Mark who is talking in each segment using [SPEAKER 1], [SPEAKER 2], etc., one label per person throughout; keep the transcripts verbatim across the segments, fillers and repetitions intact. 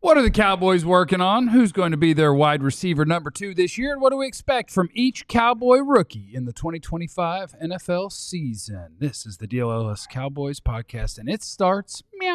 [SPEAKER 1] What are the Cowboys working on? Who's going to be their wide receiver number two this year? And what do we expect from each Cowboy rookie in the twenty twenty-five N F L season? This is the D L S Cowboys podcast, and it starts meow.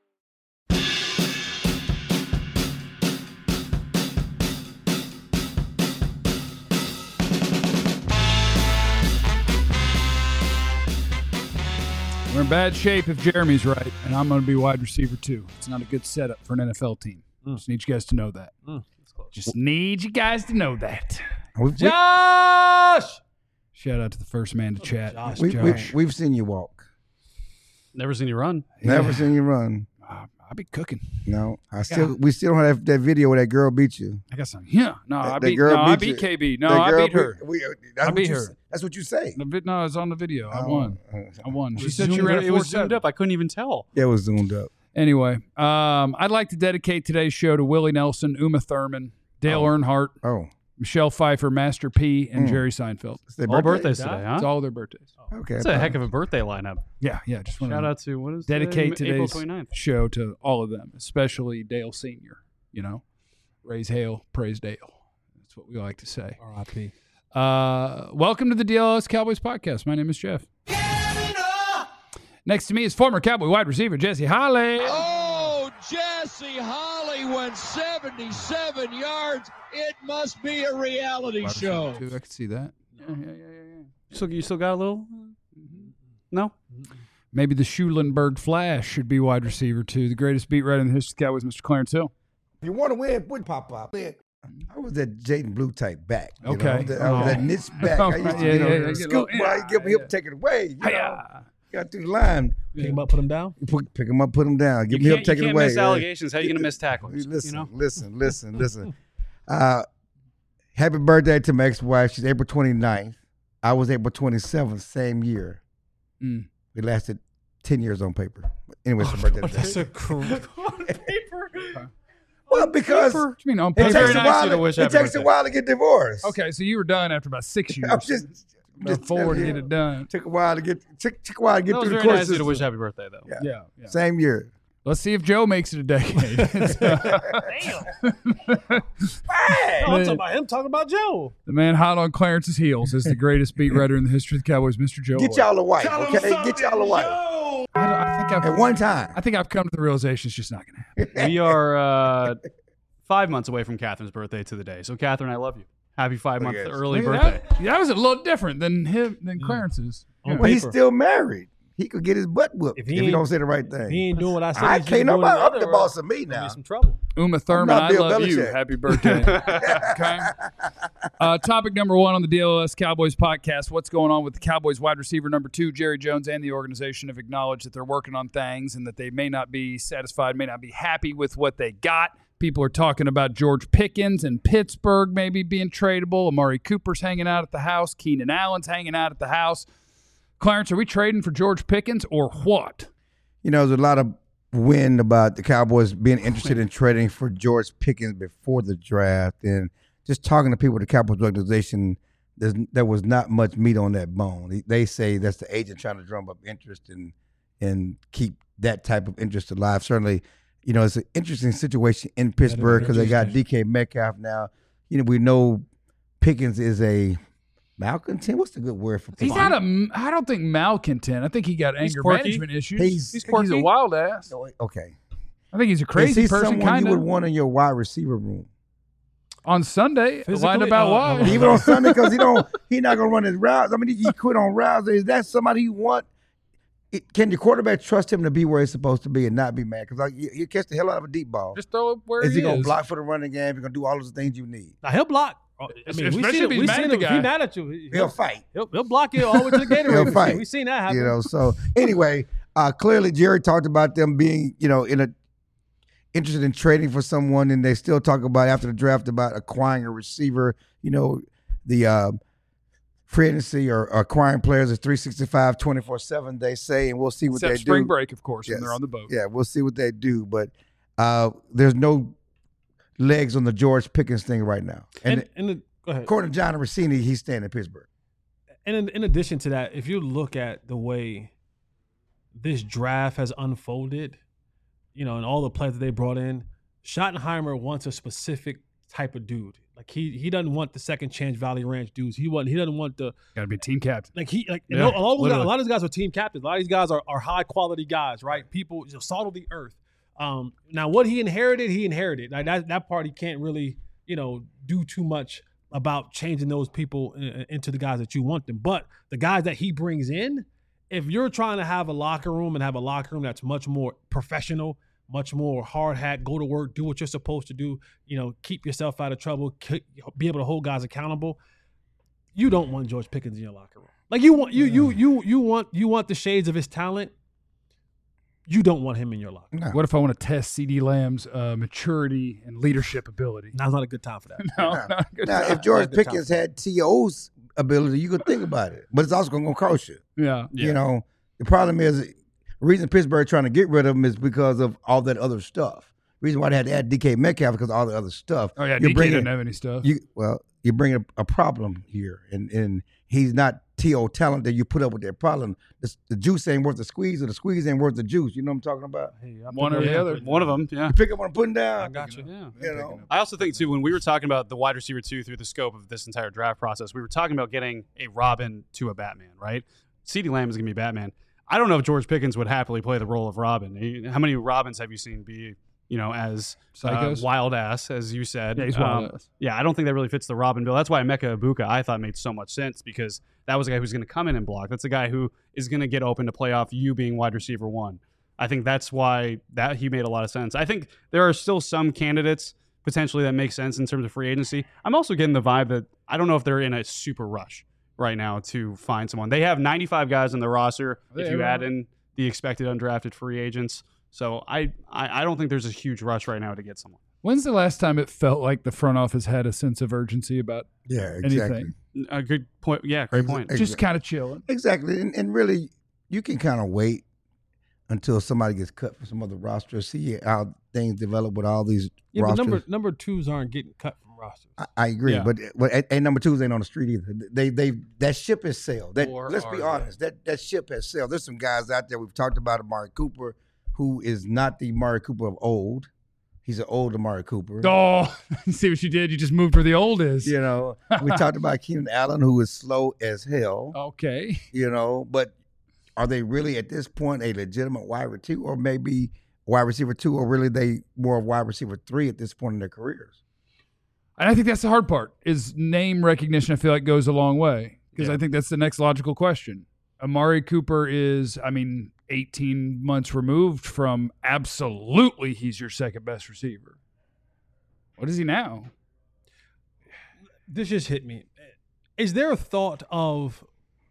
[SPEAKER 1] We're in bad shape if Jeremy's right, and I'm going to be wide receiver too. It's not a good setup for an N F L team. Mm. Just need you guys to know that. Mm, Just need you guys to know that.
[SPEAKER 2] We've,
[SPEAKER 1] Josh! Shout out to the first man to chat.
[SPEAKER 2] Josh. We, Josh. We, we've seen you walk.
[SPEAKER 3] Never seen you run.
[SPEAKER 2] Never
[SPEAKER 1] Yeah.
[SPEAKER 2] seen you run.
[SPEAKER 1] Uh, I'll be cooking.
[SPEAKER 2] No, I still. Yeah. We still don't have that video where that girl beat you.
[SPEAKER 1] I got some. Yeah, no,
[SPEAKER 2] that,
[SPEAKER 1] I beat.
[SPEAKER 2] girl
[SPEAKER 1] No,
[SPEAKER 2] beat
[SPEAKER 1] I beat
[SPEAKER 2] you.
[SPEAKER 1] K B. No,
[SPEAKER 2] that
[SPEAKER 1] I
[SPEAKER 2] girl
[SPEAKER 1] beat her.
[SPEAKER 2] We, that's
[SPEAKER 1] I beat
[SPEAKER 2] you,
[SPEAKER 1] her.
[SPEAKER 2] That's what you say.
[SPEAKER 1] The, no, it's on the video. I
[SPEAKER 2] Oh,
[SPEAKER 1] won.
[SPEAKER 2] uh,
[SPEAKER 1] I won. She
[SPEAKER 3] It
[SPEAKER 1] said
[SPEAKER 3] was
[SPEAKER 1] she ran
[SPEAKER 3] zoomed-
[SPEAKER 1] a
[SPEAKER 3] It was
[SPEAKER 1] four seven.
[SPEAKER 3] zoomed up. I couldn't even tell.
[SPEAKER 2] Yeah, it was zoomed up.
[SPEAKER 1] Anyway, um, I'd like to dedicate today's show to Willie Nelson, Uma Thurman, Dale
[SPEAKER 2] Oh.
[SPEAKER 1] Earnhardt,
[SPEAKER 2] Oh,
[SPEAKER 1] Michelle Pfeiffer, Master P, and
[SPEAKER 2] Mm.
[SPEAKER 1] Jerry Seinfeld.
[SPEAKER 2] it's their
[SPEAKER 3] All
[SPEAKER 2] birthday?
[SPEAKER 3] birthdays today, huh?
[SPEAKER 1] It's all their birthdays.
[SPEAKER 2] Okay,
[SPEAKER 3] That's a heck of a birthday lineup.
[SPEAKER 1] Yeah, yeah. Just want
[SPEAKER 3] Shout
[SPEAKER 1] to
[SPEAKER 3] out to, what is
[SPEAKER 1] dedicate
[SPEAKER 3] today? April
[SPEAKER 1] today's
[SPEAKER 3] twenty-ninth.
[SPEAKER 1] show to all of them, especially Dale Senior You know, raise hail, praise Dale. That's what we like to say.
[SPEAKER 4] R I P
[SPEAKER 1] Uh, welcome to the D L S Cowboys podcast. My name is Jeff. Next to me is former Cowboy wide receiver Jesse Holly.
[SPEAKER 5] Oh, Jesse Holly went seventy-seven yards. It must be a reality
[SPEAKER 1] Wide
[SPEAKER 5] show.
[SPEAKER 1] receiver too. I can see that. Yeah, yeah, yeah, yeah, yeah.
[SPEAKER 3] So you still got a little? No?
[SPEAKER 1] Maybe the Schulenberg Flash should be wide receiver too. The greatest beat writer in the history of the Cowboys, Mister Clarence Hill.
[SPEAKER 2] If you want to win, put pop up. I was that Jaden Blue type back. You
[SPEAKER 1] Okay.
[SPEAKER 2] know? I was that, I was that
[SPEAKER 1] Oh.
[SPEAKER 2] niche back. I used to,
[SPEAKER 1] Yeah,
[SPEAKER 2] you know,
[SPEAKER 1] yeah, yeah, get a
[SPEAKER 2] scoop,
[SPEAKER 1] little-
[SPEAKER 2] boy,
[SPEAKER 1] yeah,
[SPEAKER 2] give me
[SPEAKER 1] yeah.
[SPEAKER 2] up, take it away. You know?
[SPEAKER 1] Hiya.
[SPEAKER 2] Got through the line.
[SPEAKER 4] Pick him up, put him down.
[SPEAKER 2] Put, pick him up, put him down. Give
[SPEAKER 3] You
[SPEAKER 2] me up,
[SPEAKER 3] can't,
[SPEAKER 2] take
[SPEAKER 3] you
[SPEAKER 2] it
[SPEAKER 3] can't
[SPEAKER 2] away.
[SPEAKER 3] miss
[SPEAKER 2] yeah.
[SPEAKER 3] allegations. How are you going to miss tackles?
[SPEAKER 2] Listen,
[SPEAKER 3] You know?
[SPEAKER 2] listen, listen, listen. Uh, happy birthday to my ex-wife. She's April twenty-ninth. I was April twenty-seventh, same year.
[SPEAKER 1] Mm.
[SPEAKER 2] We lasted ten years on paper. Anyway, it's her birthday today.
[SPEAKER 4] That's a cool.
[SPEAKER 2] Well, because
[SPEAKER 1] What do you mean on
[SPEAKER 2] it
[SPEAKER 1] paper?
[SPEAKER 2] takes,
[SPEAKER 3] Very
[SPEAKER 2] a
[SPEAKER 3] nice
[SPEAKER 2] while,
[SPEAKER 3] of you to
[SPEAKER 2] to,
[SPEAKER 3] wish
[SPEAKER 2] it
[SPEAKER 3] happy
[SPEAKER 2] takes a
[SPEAKER 3] birthday.
[SPEAKER 2] while to get divorced.
[SPEAKER 1] Okay, so you were done after about six years.
[SPEAKER 2] I'm just,
[SPEAKER 1] Look forward to
[SPEAKER 2] telling
[SPEAKER 1] get
[SPEAKER 2] you.
[SPEAKER 1] it done.
[SPEAKER 2] Took a while to get took, took a while to get
[SPEAKER 3] That was
[SPEAKER 2] through the
[SPEAKER 3] very
[SPEAKER 2] course
[SPEAKER 3] nice of you to wish
[SPEAKER 2] system.
[SPEAKER 3] happy birthday, though.
[SPEAKER 2] Yeah.
[SPEAKER 1] Yeah, yeah.
[SPEAKER 2] Same year.
[SPEAKER 1] Let's see if Joe makes it a decade.
[SPEAKER 4] No, I'm talking about him talking about Joe.
[SPEAKER 1] The man hot on Clarence's heels is the greatest beat writer in the history of the Cowboys, Mister Joe.
[SPEAKER 2] Get
[SPEAKER 1] White.
[SPEAKER 2] y'all a wife, okay? Get y'all a wife.
[SPEAKER 1] I, don't- I think I've
[SPEAKER 2] At one time.
[SPEAKER 1] I think I've come to the realization it's just not going to happen.
[SPEAKER 3] We are uh, five months away from Catherine's birthday to the day. So, Catherine, I love you. Happy five month
[SPEAKER 2] Look at
[SPEAKER 3] early
[SPEAKER 1] Look at
[SPEAKER 3] birthday.
[SPEAKER 1] That. That was a little different than him than Clarence's.
[SPEAKER 4] On
[SPEAKER 1] Yeah.
[SPEAKER 2] Well, he's
[SPEAKER 4] paper.
[SPEAKER 2] still married. He could get his butt whooped
[SPEAKER 4] If
[SPEAKER 2] if
[SPEAKER 4] he
[SPEAKER 2] he,
[SPEAKER 4] ain't-
[SPEAKER 2] don't say the right thing.
[SPEAKER 4] He ain't doing what I said.
[SPEAKER 2] I
[SPEAKER 4] he should
[SPEAKER 2] can't
[SPEAKER 4] be doing
[SPEAKER 2] nobody
[SPEAKER 4] in
[SPEAKER 2] up the
[SPEAKER 4] other
[SPEAKER 2] boss
[SPEAKER 4] way.
[SPEAKER 2] of me
[SPEAKER 4] Gonna
[SPEAKER 2] now.
[SPEAKER 4] be some trouble.
[SPEAKER 1] Uma Thurman,
[SPEAKER 2] not
[SPEAKER 1] I
[SPEAKER 2] Bill
[SPEAKER 1] love you.
[SPEAKER 2] Belichick.
[SPEAKER 1] Happy birthday. Okay. Uh, topic number one on the D L S Cowboys podcast. What's going on with the Cowboys wide receiver number two? Jerry Jones and the organization have acknowledged that they're working on things and that they may not be satisfied, may not be happy with what they got. People are talking about George Pickens and Pittsburgh maybe being tradable. Amari Cooper's hanging out at the house. Keenan Allen's hanging out at the house. Clarence, are we trading for George Pickens or what?
[SPEAKER 2] You know, there's a lot of wind about the Cowboys being interested in trading for George Pickens before the draft. And just talking to people at the Cowboys organization, there's, there was not much meat on that bone. They- They say that's the agent trying to drum up interest and and keep that type of interest alive. Certainly, you know, it's an interesting situation in Pittsburgh because they got D K Metcalf now. You know, we know Pickens is a malcontent. What's the good word for
[SPEAKER 1] He's
[SPEAKER 2] Pickens?
[SPEAKER 1] not a. I don't think malcontent. I think he got
[SPEAKER 3] He's
[SPEAKER 1] anger
[SPEAKER 3] quirky.
[SPEAKER 1] management issues.
[SPEAKER 2] He's-
[SPEAKER 1] He's, he's a
[SPEAKER 3] quirky.
[SPEAKER 1] wild ass.
[SPEAKER 2] Okay.
[SPEAKER 1] I think he's a
[SPEAKER 2] Is
[SPEAKER 1] crazy
[SPEAKER 2] he
[SPEAKER 1] person,
[SPEAKER 2] someone
[SPEAKER 1] kind
[SPEAKER 2] you would
[SPEAKER 1] of.
[SPEAKER 2] want in your wide receiver room?
[SPEAKER 1] On Sunday,
[SPEAKER 4] Physically?
[SPEAKER 1] lied about
[SPEAKER 4] Oh,
[SPEAKER 1] why.
[SPEAKER 4] oh,
[SPEAKER 2] Even on Sunday, because he don't, he not gonna run his routes. I mean, he, he quit on routes. Is that somebody you want? It, can your quarterback trust him to be where he's supposed to be and not be mad? Because like you, you catch the hell out of a deep ball.
[SPEAKER 1] Just throw it where
[SPEAKER 2] Is
[SPEAKER 1] he
[SPEAKER 2] he gonna
[SPEAKER 1] is.
[SPEAKER 2] block for the running game? He's gonna do all those things you need.
[SPEAKER 4] Now he'll block. I mean, we
[SPEAKER 1] Especially
[SPEAKER 4] seen
[SPEAKER 1] if
[SPEAKER 4] it.
[SPEAKER 1] he's
[SPEAKER 4] We
[SPEAKER 1] mad
[SPEAKER 4] seen
[SPEAKER 1] at the
[SPEAKER 4] it. If
[SPEAKER 1] guy.
[SPEAKER 4] he mad at you, he-
[SPEAKER 2] He'll fight.
[SPEAKER 4] He'll, he'll block you all the way to the Gatorade
[SPEAKER 2] He'll
[SPEAKER 4] machine.
[SPEAKER 2] fight.
[SPEAKER 4] We seen that happen.
[SPEAKER 2] You know. So anyway, uh, clearly Jerry talked about them being, you know, in a interested in trading for someone, and they still talk about after the draft about acquiring a receiver. You know, the uh, free agency or acquiring players is three sixty-five, twenty-four seven, they say, and we'll see what
[SPEAKER 1] Except
[SPEAKER 2] they
[SPEAKER 1] spring
[SPEAKER 2] do.
[SPEAKER 1] break, of course, when
[SPEAKER 2] Yes.
[SPEAKER 1] they're on the boat.
[SPEAKER 2] Yeah, we'll see what they do. But uh, there's no legs on the George Pickens thing right now. And,
[SPEAKER 4] And, and the, go ahead.
[SPEAKER 2] according to John Rossini, he's staying in Pittsburgh.
[SPEAKER 4] And in, in addition to that, if you look at the way this draft has unfolded, you know, and all the players that they brought in, Schottenheimer wants a specific type of dude. Like he he doesn't want the second chance Valley Ranch dudes. He want he doesn't want the
[SPEAKER 1] Got to be team captain.
[SPEAKER 4] like he like
[SPEAKER 1] Yeah,
[SPEAKER 4] a, lot of those guys,
[SPEAKER 1] literally.
[SPEAKER 4] a lot of these guys are team captains. A lot of these guys are, are high quality guys, right? People, you know, salt of the earth. Um, now what he inherited, he inherited. Like that that part he can't really you know do too much about changing those people in, into the guys that you want them. But the guys that he brings in, if you're trying to have a locker room and have a locker room that's much more professional, much more hard hat, go to work, do what you're supposed to do, you know, keep yourself out of trouble, ke- be able to hold guys accountable. You don't want George Pickens in your locker room. Like you want you you you you want you want the shades of his talent. You don't want him in your locker room.
[SPEAKER 2] No.
[SPEAKER 1] What if I want to test C D Lamb's uh, maturity and leadership ability?
[SPEAKER 4] Now's not a good time for that.
[SPEAKER 1] No,
[SPEAKER 2] Nah.
[SPEAKER 1] not a good
[SPEAKER 2] Now,
[SPEAKER 1] time.
[SPEAKER 2] if George
[SPEAKER 4] Not a good
[SPEAKER 2] Pickens had T O's ability, you could think about it. But it's also going to cost you.
[SPEAKER 1] Yeah.
[SPEAKER 2] You know, the problem is the reason Pittsburgh trying to get rid of him is because of all that other stuff. The reason why they had to add D K Metcalf because of all the other stuff.
[SPEAKER 1] Oh, yeah.
[SPEAKER 2] You're
[SPEAKER 1] D K
[SPEAKER 2] bringing-
[SPEAKER 1] doesn't have any stuff.
[SPEAKER 2] You well, you're bringing a, a problem here, and and he's not T O talent that you put up with that problem. The, the juice ain't worth the squeeze, or the squeeze ain't worth the juice. You know what I'm talking about?
[SPEAKER 4] Hey, I
[SPEAKER 1] One
[SPEAKER 4] pick
[SPEAKER 1] or
[SPEAKER 4] up-
[SPEAKER 1] the other.
[SPEAKER 3] One of them, yeah.
[SPEAKER 2] You pick up what I'm putting down.
[SPEAKER 4] I got you.
[SPEAKER 3] Yeah.
[SPEAKER 2] You know,
[SPEAKER 3] I also think, too, when we were talking about the wide receiver two through the scope of this entire draft process, we were talking about getting a Robin to a Batman, right? CeeDee Lamb is going to be Batman. I don't know if George Pickens would happily play the role of Robin. He- How many Robins have you seen be, you know, as uh,
[SPEAKER 1] Psychos?
[SPEAKER 3] wild ass, as you said?
[SPEAKER 1] Yeah, he's wild
[SPEAKER 3] Um,
[SPEAKER 1] ass.
[SPEAKER 3] Yeah, I don't think that really fits the Robin bill. That's why Emeka Ibuka, I thought, made so much sense because that was a guy who's going to come in and block. That's a guy who is going to get open to play off you being wide receiver one. I think that's why that he made a lot of sense. I think there are still some candidates potentially that make sense in terms of free agency. I'm also getting the vibe that I don't know if they're in a super rush right now to find someone. They have ninety-five guys on their roster if
[SPEAKER 1] Yeah,
[SPEAKER 3] you
[SPEAKER 1] right.
[SPEAKER 3] add in the expected undrafted free agents. So I, I, I don't think there's a huge rush right now to get someone.
[SPEAKER 1] When's the last time it felt like the front office had a sense of urgency about
[SPEAKER 2] yeah, exactly.
[SPEAKER 1] anything?
[SPEAKER 3] A good point. Yeah, great point.
[SPEAKER 2] Ex-
[SPEAKER 1] Just kind of chilling.
[SPEAKER 2] Exactly, and, and really, you can kind of wait until somebody gets cut from some other roster, see how things develop with all these
[SPEAKER 4] Yeah, but
[SPEAKER 2] rosters.
[SPEAKER 4] number number twos aren't getting cut from rosters.
[SPEAKER 2] I, I agree,
[SPEAKER 1] Yeah.
[SPEAKER 2] but but and and number twos ain't on the street either. They they that ship has sailed. That
[SPEAKER 1] Or
[SPEAKER 2] let's
[SPEAKER 1] are
[SPEAKER 2] be
[SPEAKER 1] they?
[SPEAKER 2] honest, that that ship has sailed. There's some guys out there we've talked about, Amari Cooper, who is not the Amari Cooper of old. He's an old Amari Cooper.
[SPEAKER 1] Oh, see what you did? You just moved where the old is.
[SPEAKER 2] You know, we talked about Keenan Allen, who is slow as hell.
[SPEAKER 1] Okay.
[SPEAKER 2] You know, but are they really at this point a legitimate wide receiver two, or maybe wide receiver two, or really they more of wide receiver three at this point in their careers?
[SPEAKER 1] And I think that's the hard part is name recognition. I feel like goes a long way because
[SPEAKER 3] Yeah.
[SPEAKER 1] I think that's the next logical question. Amari Cooper is, I mean, eighteen months removed from absolutely he's your second best receiver. What is he now?
[SPEAKER 4] This just hit me. Is there a thought of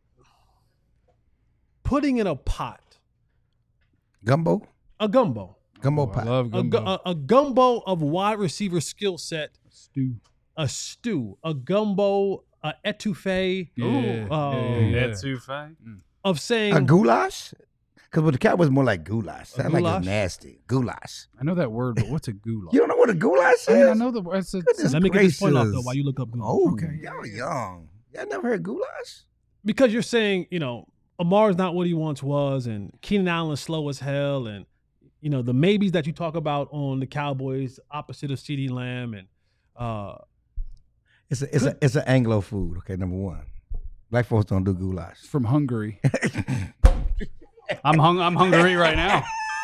[SPEAKER 4] putting in a pot,
[SPEAKER 2] Gumbo,
[SPEAKER 4] a gumbo,
[SPEAKER 2] gumbo
[SPEAKER 1] Oh, I
[SPEAKER 2] pie.
[SPEAKER 1] love
[SPEAKER 4] a,
[SPEAKER 1] gumbo.
[SPEAKER 4] gu- a, a gumbo of wide receiver skill set,
[SPEAKER 1] Stew.
[SPEAKER 4] a stew, a gumbo, a etouffee
[SPEAKER 1] Yeah,
[SPEAKER 4] uh,
[SPEAKER 1] yeah, yeah.
[SPEAKER 3] That's too fine.
[SPEAKER 4] of saying
[SPEAKER 2] A goulash? Because with the Cowboys, more like goulash. Sound like
[SPEAKER 4] goulash?
[SPEAKER 2] it's nasty. Goulash.
[SPEAKER 1] I know that word, but what's a goulash?
[SPEAKER 2] You don't know what a goulash is?
[SPEAKER 1] I mean, I know the word. It's a,
[SPEAKER 2] Goodness
[SPEAKER 4] Let me get this point off though
[SPEAKER 2] gracious.
[SPEAKER 4] while you look up goulash.
[SPEAKER 2] Oh,
[SPEAKER 1] Okay.
[SPEAKER 2] y'all young. Y'all never heard goulash?
[SPEAKER 4] Because you're saying, you know, Amar's not what he once was, and Keenan Allen's slow as hell, and you know the maybes that you talk about on the Cowboys, opposite of CeeDee Lamb, and uh,
[SPEAKER 2] It's a it's a it's an Anglo food. Okay, number one. Black folks don't do goulash.
[SPEAKER 1] from Hungary.
[SPEAKER 3] I'm hung. I'm hungry right now.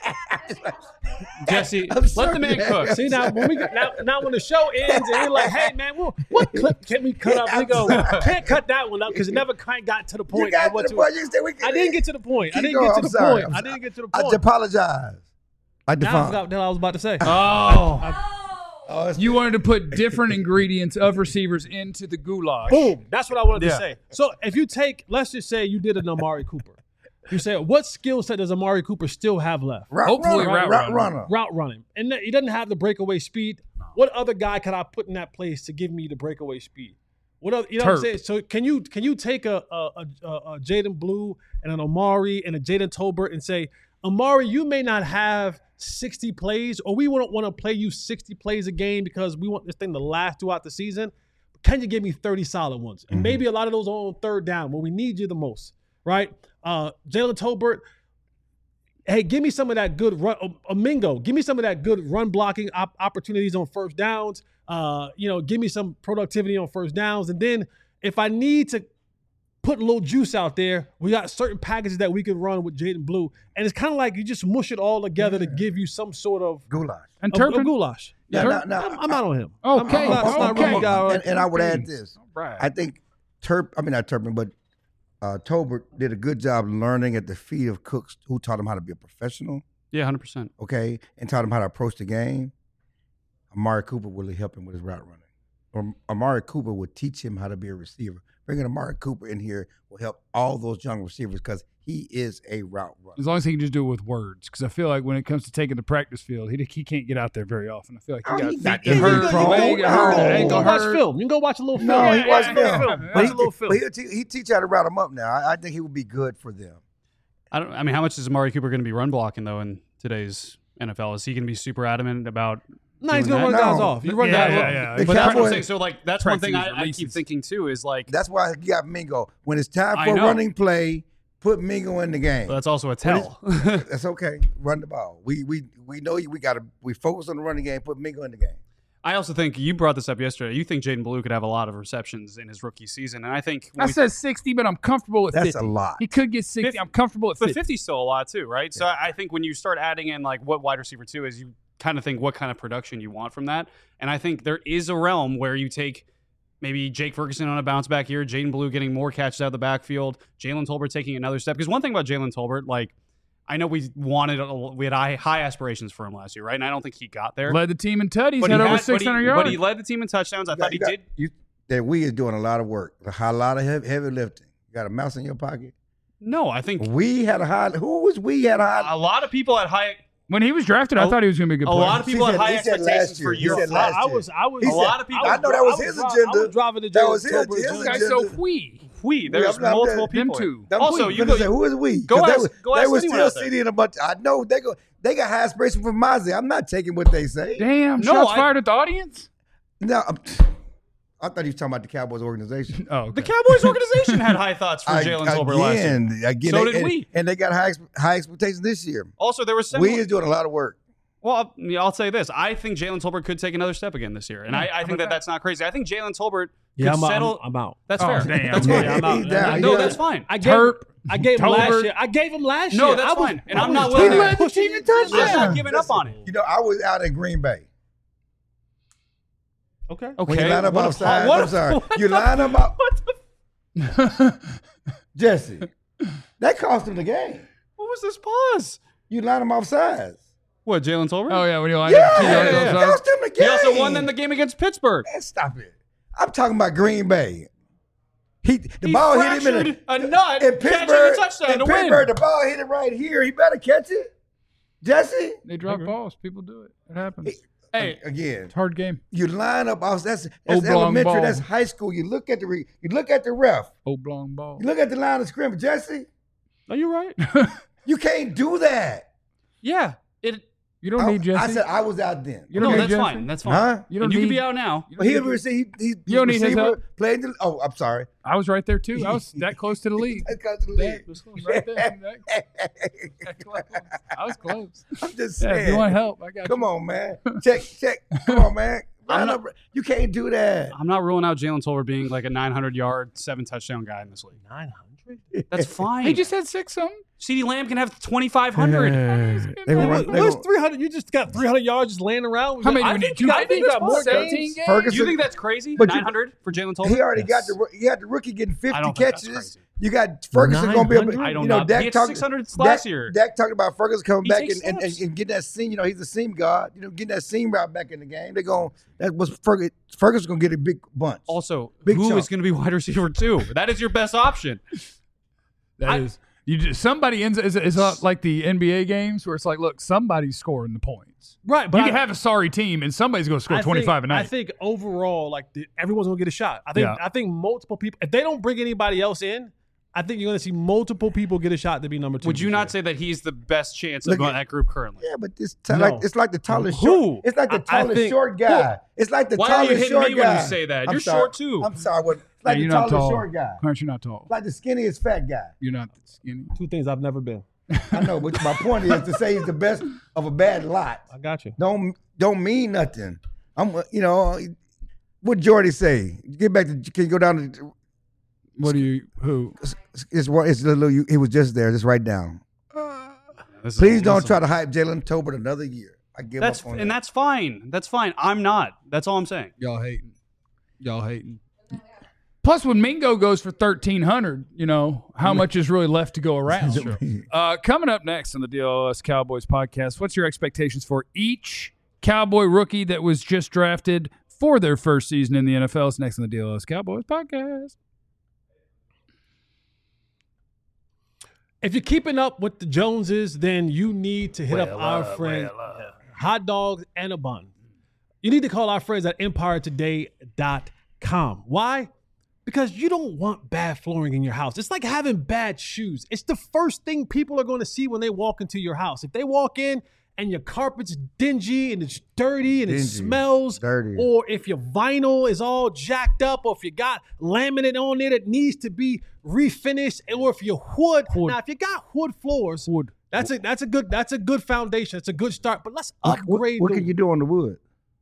[SPEAKER 3] Jesse,
[SPEAKER 2] I'm
[SPEAKER 3] let
[SPEAKER 2] sorry,
[SPEAKER 3] the man
[SPEAKER 2] man.
[SPEAKER 3] cook.
[SPEAKER 4] see now when we now, now when the show ends and we're like, hey man, well, what clip can we cut up? We
[SPEAKER 2] I'm
[SPEAKER 4] go,
[SPEAKER 2] sorry.
[SPEAKER 4] can't cut that one up because it never quite got to the
[SPEAKER 2] You
[SPEAKER 4] point.
[SPEAKER 2] got
[SPEAKER 4] I,
[SPEAKER 2] to
[SPEAKER 4] want
[SPEAKER 2] the
[SPEAKER 4] to-
[SPEAKER 2] point. You said we can,
[SPEAKER 4] I didn't get to the point. I
[SPEAKER 2] Keep
[SPEAKER 4] didn't
[SPEAKER 2] going.
[SPEAKER 4] get to
[SPEAKER 2] I'm
[SPEAKER 4] the
[SPEAKER 2] sorry.
[SPEAKER 4] point.
[SPEAKER 2] I'm
[SPEAKER 4] I
[SPEAKER 2] sorry.
[SPEAKER 4] didn't get to the
[SPEAKER 2] I
[SPEAKER 4] point.
[SPEAKER 2] apologize. I
[SPEAKER 4] Now I
[SPEAKER 2] define.
[SPEAKER 4] forgot what I was about to say.
[SPEAKER 3] Oh,
[SPEAKER 2] Oh, it's-
[SPEAKER 1] You wanted to put different ingredients of receivers into the goulash.
[SPEAKER 4] Boom. That's what I wanted
[SPEAKER 3] Yeah.
[SPEAKER 4] to say. So if you take, let's just say you did an Amari Cooper. You say, what skill set does Amari Cooper still have left?
[SPEAKER 2] route
[SPEAKER 1] Hopefully
[SPEAKER 2] runner,
[SPEAKER 1] route
[SPEAKER 2] route
[SPEAKER 1] runner.
[SPEAKER 2] runner.
[SPEAKER 4] Route running. And he doesn't have the breakaway speed. What other guy could I put in that place to give me the breakaway speed? What other, you know what I'm
[SPEAKER 1] Turp.
[SPEAKER 4] saying? So can you can you take a a, a, a Jaden Blue and an Amari and a Jaden Tolbert and say, Amari, you may not have sixty plays, or we wouldn't want to play you sixty plays a game because we want this thing to last throughout the season. But can you give me thirty solid ones? And maybe a lot of those are on third down when we need you the most, right? Uh, Jalen Tolbert, hey, give me some of that good run, a Mingo. Give me some of that good run blocking op- opportunities on first downs. Uh, you know, give me some productivity on first downs, and then if I need to put a little juice out there, we got certain packages that we can run with Jaden Blue, and it's kind of like you just mush it all together
[SPEAKER 2] Yeah.
[SPEAKER 4] to give you some sort of
[SPEAKER 2] Goulash.
[SPEAKER 1] And
[SPEAKER 4] of,
[SPEAKER 1] Turpin?
[SPEAKER 4] of goulash.
[SPEAKER 2] Yeah,
[SPEAKER 4] Tur-
[SPEAKER 2] now- now,
[SPEAKER 4] I'm, I'm out on him.
[SPEAKER 1] Okay,
[SPEAKER 4] I'm, I'm not, it's not
[SPEAKER 1] okay.
[SPEAKER 4] really guy-
[SPEAKER 2] and, and I would add this.
[SPEAKER 1] Right.
[SPEAKER 2] I think Turp, I mean not Turpin, but uh, Tolbert did a good job learning at the feet of cooks who taught him how to be a professional,
[SPEAKER 3] Yeah, one hundred percent.
[SPEAKER 2] okay, and taught him how to approach the game. Amari Cooper will help him with his route running. Or Amari Cooper would teach him how to be a receiver. Bringing Amari Cooper in here will help all those young receivers because he is a route runner.
[SPEAKER 1] As long as he can just do it with words, because I feel like when it comes to taking the practice field, he he can't get out there very often. I feel like he
[SPEAKER 2] Oh,
[SPEAKER 1] got
[SPEAKER 2] he's not
[SPEAKER 1] feet that
[SPEAKER 2] injury
[SPEAKER 1] hurt,
[SPEAKER 2] prone.
[SPEAKER 1] leg that hurt,
[SPEAKER 2] No.
[SPEAKER 1] ankle
[SPEAKER 4] You can go watch
[SPEAKER 1] hurt.
[SPEAKER 4] film. You can go watch a little film.
[SPEAKER 2] No, he
[SPEAKER 1] Yeah,
[SPEAKER 2] watched
[SPEAKER 1] yeah,
[SPEAKER 2] film.
[SPEAKER 1] yeah.
[SPEAKER 2] But
[SPEAKER 4] Watch
[SPEAKER 2] he,
[SPEAKER 4] a little film.
[SPEAKER 2] but he'll te- he teach you how to route them up now. I, I think he would be good for them.
[SPEAKER 3] I don't. I mean, how much is Amari Cooper going to be run blocking though in today's N F L? Is he going to be super adamant about?
[SPEAKER 4] No, he's
[SPEAKER 3] doing
[SPEAKER 4] gonna run
[SPEAKER 3] that?
[SPEAKER 4] guys
[SPEAKER 2] No.
[SPEAKER 4] off. You run
[SPEAKER 1] Yeah,
[SPEAKER 4] guys
[SPEAKER 1] yeah,
[SPEAKER 4] off.
[SPEAKER 1] yeah.
[SPEAKER 2] The
[SPEAKER 3] But that's what I'm
[SPEAKER 2] Cowboys-
[SPEAKER 3] saying. So like, that's one
[SPEAKER 1] Practices,
[SPEAKER 3] thing I, I keep
[SPEAKER 1] releases.
[SPEAKER 3] thinking too. Is like,
[SPEAKER 2] That's why you got Mingo. When it's time
[SPEAKER 3] I
[SPEAKER 2] for a
[SPEAKER 3] know.
[SPEAKER 2] running play, put Mingo in the game.
[SPEAKER 3] that's also a
[SPEAKER 2] What
[SPEAKER 3] tell.
[SPEAKER 2] That's okay. Run the ball. We we we know you. We got to we focus on the running game. Put Mingo in the game.
[SPEAKER 3] I also think you brought this up yesterday. You think Jaden Blue could have a lot of receptions in his rookie season, and I think when
[SPEAKER 1] I
[SPEAKER 3] we-
[SPEAKER 1] said sixty, but I'm comfortable with
[SPEAKER 2] That's
[SPEAKER 1] fifty.
[SPEAKER 2] a lot.
[SPEAKER 1] He could get sixty. I'm comfortable with
[SPEAKER 3] but
[SPEAKER 1] fifty.
[SPEAKER 3] fifty's still a lot too, right? So I I think when you start adding in like what wide receiver two is, you kind of think what kind of production you want from that. And I think there is a realm where you take maybe Jake Ferguson on a bounce back year, Jaden Blue getting more catches out of the backfield, Jalen Tolbert taking another step. Because one thing about Jalen Tolbert, like I know we wanted, a, we had high, high aspirations for him last year, right? And I don't think he got there.
[SPEAKER 1] Led the team in tutties,
[SPEAKER 3] But
[SPEAKER 1] had
[SPEAKER 3] he
[SPEAKER 1] over
[SPEAKER 3] had-
[SPEAKER 1] six hundred
[SPEAKER 3] but he,
[SPEAKER 1] yards.
[SPEAKER 3] But he led the team in touchdowns. I
[SPEAKER 2] You got-
[SPEAKER 3] thought he
[SPEAKER 2] you got-
[SPEAKER 3] did.
[SPEAKER 2] You, that we is doing a lot of work. A lot of heavy, heavy lifting. You got a mouse in your pocket.
[SPEAKER 3] No, I think
[SPEAKER 2] We had a high. Who was we had a high?
[SPEAKER 3] a lot of people had high.
[SPEAKER 1] when he was drafted, I
[SPEAKER 3] A-
[SPEAKER 1] thought he was going to be a good
[SPEAKER 3] A
[SPEAKER 1] player.
[SPEAKER 3] lot of
[SPEAKER 2] He
[SPEAKER 3] people
[SPEAKER 2] said-
[SPEAKER 3] had high
[SPEAKER 2] he said last
[SPEAKER 3] expectations for
[SPEAKER 2] year. He
[SPEAKER 3] year
[SPEAKER 2] said
[SPEAKER 3] four.
[SPEAKER 2] last
[SPEAKER 4] I, I
[SPEAKER 2] year.
[SPEAKER 4] was, I was.
[SPEAKER 2] He
[SPEAKER 3] A
[SPEAKER 2] said-
[SPEAKER 3] lot of people-
[SPEAKER 2] I know that was
[SPEAKER 4] I
[SPEAKER 2] his
[SPEAKER 4] dri- I
[SPEAKER 2] agenda.
[SPEAKER 4] was driving the
[SPEAKER 2] That was his-
[SPEAKER 4] Tolbert
[SPEAKER 2] his
[SPEAKER 4] agenda.
[SPEAKER 1] This guy's
[SPEAKER 2] agenda.
[SPEAKER 1] so we.
[SPEAKER 3] We there's
[SPEAKER 2] I'm not-
[SPEAKER 3] multiple
[SPEAKER 2] them
[SPEAKER 3] people.
[SPEAKER 1] two.
[SPEAKER 2] Them
[SPEAKER 3] Also,
[SPEAKER 2] we-
[SPEAKER 3] you
[SPEAKER 2] but
[SPEAKER 3] go-
[SPEAKER 2] say, who is we?
[SPEAKER 3] go
[SPEAKER 2] 'Cause
[SPEAKER 3] ask-
[SPEAKER 2] they, were-
[SPEAKER 3] go
[SPEAKER 2] they
[SPEAKER 3] ask
[SPEAKER 2] were
[SPEAKER 3] anyone
[SPEAKER 2] still
[SPEAKER 3] out there.
[SPEAKER 2] sitting a bunch. I know they go. They got high aspirations from Mozzie. I'm not taking what they say.
[SPEAKER 1] Damn,
[SPEAKER 3] No,
[SPEAKER 1] shots
[SPEAKER 3] I-
[SPEAKER 1] fired at the audience?
[SPEAKER 2] No, I'm- I thought he was talking about the Cowboys organization.
[SPEAKER 1] Oh,
[SPEAKER 3] The
[SPEAKER 1] okay.
[SPEAKER 3] Cowboys organization had high thoughts for
[SPEAKER 2] I-
[SPEAKER 3] Jalen Tolbert last year.
[SPEAKER 2] again, again,
[SPEAKER 3] So
[SPEAKER 2] they-
[SPEAKER 3] did
[SPEAKER 2] and,
[SPEAKER 3] we.
[SPEAKER 2] and they got high ex- high expectations this year.
[SPEAKER 3] Also, there was some.
[SPEAKER 2] We is doing a lot of work.
[SPEAKER 3] Well, I'll, yeah, I'll say this: I think Jalen Tolbert could take another step again this year, and I, I think that that's not crazy. I think Jalen Tolbert
[SPEAKER 4] Yeah,
[SPEAKER 3] could
[SPEAKER 4] I'm,
[SPEAKER 3] settle.
[SPEAKER 4] I'm, I'm out.
[SPEAKER 3] That's
[SPEAKER 1] Oh,
[SPEAKER 3] fair.
[SPEAKER 1] damn.
[SPEAKER 3] That's
[SPEAKER 1] Yeah,
[SPEAKER 3] fine.
[SPEAKER 4] I'm out.
[SPEAKER 2] He's down.
[SPEAKER 3] No,
[SPEAKER 2] He's
[SPEAKER 3] that's
[SPEAKER 2] down.
[SPEAKER 3] fine.
[SPEAKER 4] I gave,
[SPEAKER 1] Terp,
[SPEAKER 4] I gave him last
[SPEAKER 1] Tolbert.
[SPEAKER 4] year. I gave him last
[SPEAKER 3] No,
[SPEAKER 4] year.
[SPEAKER 3] that's
[SPEAKER 4] I was,
[SPEAKER 3] fine. And
[SPEAKER 4] I
[SPEAKER 3] I'm
[SPEAKER 4] was
[SPEAKER 3] not
[SPEAKER 4] trying
[SPEAKER 3] willing
[SPEAKER 4] to
[SPEAKER 3] to-
[SPEAKER 4] push
[SPEAKER 2] He
[SPEAKER 4] him
[SPEAKER 2] led
[SPEAKER 4] into
[SPEAKER 2] the
[SPEAKER 3] I'm
[SPEAKER 2] team in
[SPEAKER 4] touchdowns.
[SPEAKER 3] not giving up on it.
[SPEAKER 2] You know, I was out in Green Bay.
[SPEAKER 4] Okay.
[SPEAKER 3] Okay.
[SPEAKER 2] When you line up
[SPEAKER 3] what a
[SPEAKER 2] outside,
[SPEAKER 3] po- what
[SPEAKER 2] I'm
[SPEAKER 3] a-
[SPEAKER 2] sorry.
[SPEAKER 3] what
[SPEAKER 2] You
[SPEAKER 3] the-
[SPEAKER 2] line up out.
[SPEAKER 3] What the?
[SPEAKER 2] Jesse, that cost him the game.
[SPEAKER 3] What was this pause?
[SPEAKER 2] You line him off sides.
[SPEAKER 3] What, Jalen Tolbert?
[SPEAKER 1] Oh, yeah, when you line
[SPEAKER 2] Yeah,
[SPEAKER 1] up two yards
[SPEAKER 3] yeah, yeah.
[SPEAKER 1] outside.
[SPEAKER 2] cost him the game.
[SPEAKER 3] He also won them the game against Pittsburgh.
[SPEAKER 2] Man, stop it. I'm talking about Green Bay. He the
[SPEAKER 3] He
[SPEAKER 2] ball hit him in,
[SPEAKER 3] fractured
[SPEAKER 2] a,
[SPEAKER 3] a nut
[SPEAKER 2] in
[SPEAKER 3] catching
[SPEAKER 2] Pittsburgh.
[SPEAKER 3] a touchdown
[SPEAKER 2] in
[SPEAKER 3] to win.
[SPEAKER 2] Pittsburgh, the ball hit it right here. He better catch it. Jesse,
[SPEAKER 1] They drop balls. People do it. It happens. It's
[SPEAKER 3] Hey,
[SPEAKER 2] again,
[SPEAKER 1] a hard game.
[SPEAKER 2] you line up. That's that's
[SPEAKER 1] Oblong
[SPEAKER 2] elementary.
[SPEAKER 1] ball.
[SPEAKER 2] That's high school. You look at the re, you look at the ref.
[SPEAKER 1] Oblong ball.
[SPEAKER 2] You look at the line of scrimmage. Jesse,
[SPEAKER 3] are you right?
[SPEAKER 2] you can't do that.
[SPEAKER 3] Yeah. It.
[SPEAKER 1] You don't
[SPEAKER 2] I,
[SPEAKER 1] need Jesse.
[SPEAKER 2] I said I was out then.
[SPEAKER 1] You don't
[SPEAKER 3] No,
[SPEAKER 1] need
[SPEAKER 3] that's
[SPEAKER 1] Jesse?
[SPEAKER 3] fine. That's fine.
[SPEAKER 2] Huh?
[SPEAKER 1] You don't
[SPEAKER 3] and you
[SPEAKER 1] need,
[SPEAKER 3] can be out now.
[SPEAKER 1] you
[SPEAKER 2] But
[SPEAKER 1] don't
[SPEAKER 2] he
[SPEAKER 1] need-
[SPEAKER 2] received. He, he,
[SPEAKER 1] You don't need his
[SPEAKER 2] receiver
[SPEAKER 1] help?
[SPEAKER 2] Played the. Oh, I'm sorry.
[SPEAKER 1] I was right there, too. I was that close to the league.
[SPEAKER 2] That's 'cause of the league.
[SPEAKER 1] That was close. Right there. That, that close. I was close.
[SPEAKER 2] I'm just
[SPEAKER 1] Yeah,
[SPEAKER 2] saying.
[SPEAKER 1] if you want help, I got
[SPEAKER 2] Come
[SPEAKER 1] you.
[SPEAKER 2] on, man. Check, check. Come on, man.
[SPEAKER 3] I'm
[SPEAKER 2] Line
[SPEAKER 3] not-
[SPEAKER 2] up. You can't do that.
[SPEAKER 3] I'm not ruling out Jalen Tolbert being like a nine hundred yard, seven touchdown guy in this league.
[SPEAKER 4] nine hundred.
[SPEAKER 3] That's fine.
[SPEAKER 1] He just had six something.
[SPEAKER 3] CeeDee Lamb can have twenty-five hundred.
[SPEAKER 2] They gonna run- they
[SPEAKER 4] Where's
[SPEAKER 2] gonna-
[SPEAKER 4] three hundred? You just got three hundred yards just laying around.
[SPEAKER 1] How many
[SPEAKER 4] I
[SPEAKER 1] do we
[SPEAKER 4] think
[SPEAKER 1] need?
[SPEAKER 4] you
[SPEAKER 1] Two-
[SPEAKER 4] got, I think you got more
[SPEAKER 1] seventeen
[SPEAKER 4] games.
[SPEAKER 1] games?
[SPEAKER 2] Ferguson.
[SPEAKER 3] Do you think that's crazy?
[SPEAKER 2] But you-
[SPEAKER 3] nine hundred for Jalen Tolbert?
[SPEAKER 2] He already
[SPEAKER 4] Yes.
[SPEAKER 2] got the. He had the rookie getting fifty
[SPEAKER 3] I don't think that's
[SPEAKER 2] catches.
[SPEAKER 3] crazy.
[SPEAKER 2] You got Ferguson going to be able.
[SPEAKER 4] nine hundred?
[SPEAKER 2] to-
[SPEAKER 3] I don't
[SPEAKER 2] you know,
[SPEAKER 3] know.
[SPEAKER 2] Dak
[SPEAKER 3] He had
[SPEAKER 2] talked-
[SPEAKER 3] six hundred last
[SPEAKER 2] Dak-
[SPEAKER 3] year.
[SPEAKER 2] Dak talked about Ferguson coming
[SPEAKER 3] He
[SPEAKER 2] back
[SPEAKER 3] takes
[SPEAKER 2] and, and, and,
[SPEAKER 3] steps.
[SPEAKER 2] and getting that seam. You know, he's a seam guard. You know, getting that seam route back in the game. They're going. That was Ferguson. Ferguson's going to get a big bunch.
[SPEAKER 3] Also,
[SPEAKER 2] Big
[SPEAKER 3] who
[SPEAKER 2] chunk.
[SPEAKER 3] is going to be wide receiver two? That is your best option.
[SPEAKER 1] That is.
[SPEAKER 3] I-
[SPEAKER 1] You just, somebody ends is is not like the N B A games where it's like, look, somebody's scoring the points.
[SPEAKER 4] Right, but
[SPEAKER 1] you
[SPEAKER 4] I-
[SPEAKER 1] can have a sorry team and somebody's going to score
[SPEAKER 4] I
[SPEAKER 1] twenty-five
[SPEAKER 4] think,
[SPEAKER 1] a
[SPEAKER 4] I
[SPEAKER 1] night.
[SPEAKER 4] think overall, like the, everyone's gonna get a shot. I think
[SPEAKER 1] Yeah.
[SPEAKER 4] I think multiple people. If they don't bring anybody else in, I think you're gonna see multiple people get a shot to be number two.
[SPEAKER 3] Would you
[SPEAKER 4] this
[SPEAKER 3] not
[SPEAKER 4] year.
[SPEAKER 3] say that he's the best chance
[SPEAKER 2] Look
[SPEAKER 3] of
[SPEAKER 2] at-
[SPEAKER 3] that group currently?
[SPEAKER 2] Yeah, but this t-
[SPEAKER 4] No.
[SPEAKER 2] like it's like the tallest
[SPEAKER 4] Who?
[SPEAKER 2] short. It's like the
[SPEAKER 4] I- I
[SPEAKER 2] tallest
[SPEAKER 4] think-
[SPEAKER 2] short guy. It's like the
[SPEAKER 3] Why are you
[SPEAKER 2] tallest
[SPEAKER 3] hitting
[SPEAKER 2] short
[SPEAKER 3] me
[SPEAKER 2] guy.
[SPEAKER 3] when you say that?
[SPEAKER 2] I'm
[SPEAKER 3] You're
[SPEAKER 2] sorry.
[SPEAKER 3] short too.
[SPEAKER 2] I'm sorry. What? It's
[SPEAKER 1] Yeah,
[SPEAKER 2] like
[SPEAKER 1] you're
[SPEAKER 2] the
[SPEAKER 1] not
[SPEAKER 2] tallest
[SPEAKER 1] tall.
[SPEAKER 2] short guy.
[SPEAKER 1] Aren't you not tall?
[SPEAKER 2] Like the skinniest fat guy.
[SPEAKER 1] You're not skinny.
[SPEAKER 4] two things I've never been?
[SPEAKER 2] I know, but my point is to say he's the best of a bad lot.
[SPEAKER 4] I got you.
[SPEAKER 2] Don't don't mean nothing. I'm, you know, what Jordy say? Get back to. Can you go down to?
[SPEAKER 1] What do you? Who?
[SPEAKER 2] It's it's, it's a little. He was just there. Just write down.
[SPEAKER 3] This is-
[SPEAKER 2] Please
[SPEAKER 3] this
[SPEAKER 2] don't
[SPEAKER 3] is-
[SPEAKER 2] try to hype Jalen Tolbert another year. I give
[SPEAKER 3] That's
[SPEAKER 2] up on
[SPEAKER 3] and
[SPEAKER 2] that.
[SPEAKER 3] that's fine. That's fine. I'm not. That's all I'm saying.
[SPEAKER 1] Y'all hating. Y'all hating. Plus, when Mingo goes for thirteen hundred, you know how much is really left to go around. Uh, coming up next on the D L S Cowboys podcast, what's your expectations for each Cowboy rookie that was just drafted for their first season in the N F L? It's next on the D L S Cowboys podcast.
[SPEAKER 4] If you're keeping up with the Joneses, then you need to hit up our friend Hot Dogs and a Bun. You need to call our friends at empire today dot com. Why? Because you don't want bad flooring in your house. It's like having bad shoes. It's the first thing people are going to see when they walk into your house. If they walk in and your carpet's dingy and it's dirty and it
[SPEAKER 2] Dingy,
[SPEAKER 4] smells,
[SPEAKER 2] dirty.
[SPEAKER 4] or if your vinyl is all jacked up, or if you got laminate on it that needs to be refinished, or if your wood,
[SPEAKER 1] Wood.
[SPEAKER 4] now if you got wood floors,
[SPEAKER 1] Wood.
[SPEAKER 4] that's a that's a good that's a good foundation. It's a good start. But let's
[SPEAKER 2] What, what,
[SPEAKER 4] upgrade.
[SPEAKER 2] what
[SPEAKER 4] the,
[SPEAKER 2] can you do on the wood?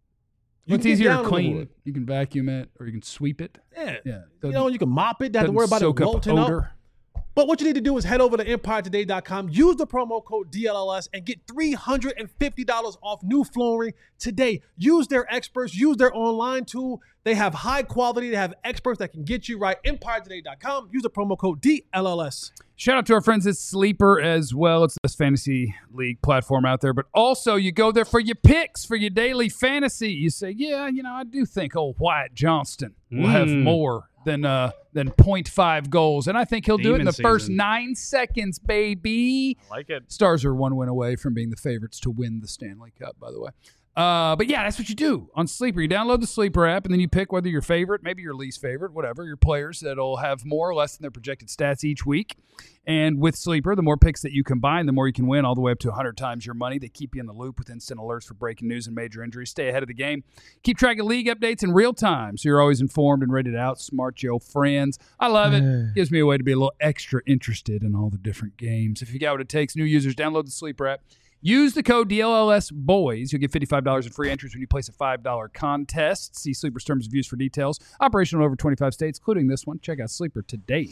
[SPEAKER 4] you
[SPEAKER 1] It's
[SPEAKER 4] can get
[SPEAKER 1] easier
[SPEAKER 4] down
[SPEAKER 1] to
[SPEAKER 4] on the
[SPEAKER 1] clean.
[SPEAKER 4] wood.
[SPEAKER 1] You can vacuum it or you can sweep it.
[SPEAKER 4] Yeah,
[SPEAKER 1] Yeah.
[SPEAKER 4] you know, you can mop it. Don't have to
[SPEAKER 1] Doesn't
[SPEAKER 4] worry about it
[SPEAKER 1] soak up
[SPEAKER 4] wilting up.
[SPEAKER 1] odor.
[SPEAKER 4] But what you need to do is head over to empire today dot com, use the promo code D L L S, and get three hundred fifty dollars off new flooring today. Use their experts, use their online tool. They have high quality. They have experts that can get you right. empire today dot com. Use the promo code D L L S.
[SPEAKER 1] Shout out to our friends at Sleeper as well. It's the best fantasy league platform out there. But also, you go there for your picks, for your daily fantasy. You say, yeah, you know, I do think old Wyatt Johnston will have
[SPEAKER 3] Mm.
[SPEAKER 1] more than uh, than point five goals. And I think he'll do it in
[SPEAKER 3] Demon
[SPEAKER 1] the first
[SPEAKER 3] season.
[SPEAKER 1] nine seconds, baby.
[SPEAKER 3] I like it.
[SPEAKER 1] Stars are one win away from being the favorites to win the Stanley Cup, by the way. Uh, but yeah, that's what you do on Sleeper. You download the Sleeper app, and then you pick whether your favorite, maybe your least favorite, whatever, your players that'll have more or less than their projected stats each week. And with Sleeper, the more picks that you combine, the more you can win, all the way up to one hundred times your money. They keep you in the loop with instant alerts for breaking news and major injuries. Stay ahead of the game. Keep track of league updates in real time, so you're always informed and ready to outsmart your friends. I love it. Gives me a way to be a little extra interested in all the different games. If you got what it takes, new users, download the Sleeper app. Use the code D L L S boys. You'll get fifty-five dollars in free entries when you place a five dollar contest. See Sleeper's terms of use for details. Operational in over twenty-five states, including this one. Check out Sleeper today.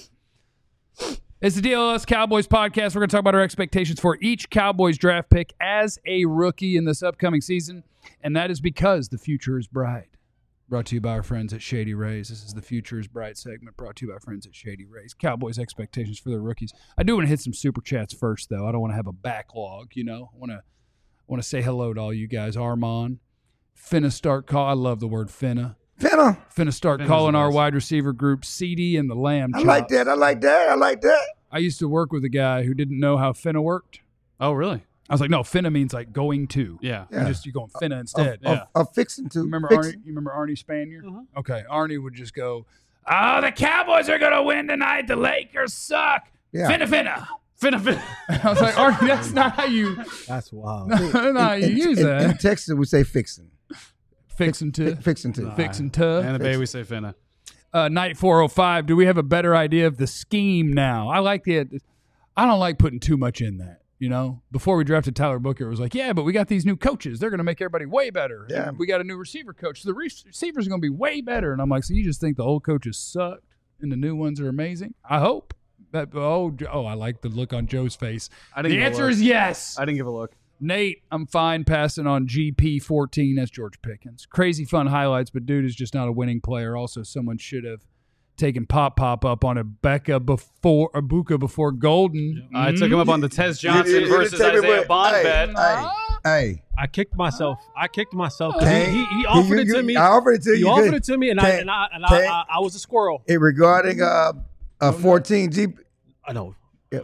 [SPEAKER 1] It's the D L S Cowboys podcast. We're going to talk about our expectations for each Cowboys draft pick as a rookie in this upcoming season, and that is because the future is bright. Brought to you by our friends at Shady Rays. This is the Future is Bright segment brought to you by friends at Shady Rays. Cowboys expectations for their rookies. I do want to hit some super chats first, though. I don't want to have a backlog, you know. I want to want to say hello to all you guys. Armand, finna start call. I love the word finna.
[SPEAKER 2] Finna.
[SPEAKER 1] Finna start
[SPEAKER 3] Finna's
[SPEAKER 1] calling
[SPEAKER 3] the
[SPEAKER 1] our
[SPEAKER 3] best.
[SPEAKER 1] wide receiver group C D and the Lamb
[SPEAKER 2] I
[SPEAKER 1] Chops.
[SPEAKER 2] like that. I like that. I like that.
[SPEAKER 1] I used to work with a guy who didn't know how finna worked.
[SPEAKER 3] Oh, really?
[SPEAKER 1] I was like, no, finna means like going to.
[SPEAKER 3] Yeah.
[SPEAKER 1] You
[SPEAKER 2] Yeah.
[SPEAKER 1] just you going finna instead.
[SPEAKER 2] Of, of, of fixing to.
[SPEAKER 1] You remember
[SPEAKER 2] fixing.
[SPEAKER 1] Arnie? You remember Arnie Spanier?
[SPEAKER 4] Mhm.
[SPEAKER 1] Okay, Arnie would just go, "Oh, the Cowboys are gonna win tonight. The Lakers suck.
[SPEAKER 2] Yeah.
[SPEAKER 1] Finna, finna."
[SPEAKER 3] Finna, finna.
[SPEAKER 1] I was like, Arnie, that's not how you,
[SPEAKER 4] That's wild.
[SPEAKER 1] that's not how you
[SPEAKER 2] In-
[SPEAKER 1] use
[SPEAKER 2] in,
[SPEAKER 1] that.
[SPEAKER 2] In Texas, we say fixing.
[SPEAKER 1] Fixing to,
[SPEAKER 2] Fi- Fixing to.
[SPEAKER 1] fixing to.
[SPEAKER 3] And the Bay, we say finna.
[SPEAKER 1] Uh, night four oh five. Do we have a better idea of the scheme now? I like the. I don't like putting too much in that. You know, before we drafted Tyler Booker, it was like, yeah, but we got these new coaches. They're going to make everybody way better.
[SPEAKER 2] Yeah.
[SPEAKER 1] And we got a new receiver coach. So the re- receivers are going to be way better. And I'm like, so you just think the old coaches sucked and the new ones are amazing? I hope. That, oh, oh, I like the look on Joe's face.
[SPEAKER 3] I didn't
[SPEAKER 1] The
[SPEAKER 3] give a
[SPEAKER 1] answer
[SPEAKER 3] look.
[SPEAKER 1] is yes.
[SPEAKER 3] I didn't give a look.
[SPEAKER 1] Nate, I'm fine passing on G P fourteen as George Pickens. Crazy fun highlights, but dude is just not a winning player. Also, someone should have taken Pop Pop up on a Becca before a Buka before Golden.
[SPEAKER 3] I took him up on the Tez Johnson
[SPEAKER 2] You- you- you
[SPEAKER 3] versus
[SPEAKER 2] take it
[SPEAKER 3] Isaiah
[SPEAKER 2] with-
[SPEAKER 3] Bond
[SPEAKER 2] hey,
[SPEAKER 3] bet.
[SPEAKER 2] Hey, hey.
[SPEAKER 4] I kicked myself. I kicked myself. 'cause
[SPEAKER 2] Can't-
[SPEAKER 4] He, he, he offered
[SPEAKER 2] you-
[SPEAKER 4] it to
[SPEAKER 2] you-
[SPEAKER 4] me.
[SPEAKER 2] I offered it to you.
[SPEAKER 4] He
[SPEAKER 2] You
[SPEAKER 4] offered
[SPEAKER 2] couldn't-
[SPEAKER 4] it to me, and I
[SPEAKER 2] can't-
[SPEAKER 4] and I and I,
[SPEAKER 2] can't-
[SPEAKER 4] I, I was a squirrel.
[SPEAKER 2] It regarding uh, a fourteen G
[SPEAKER 4] I know.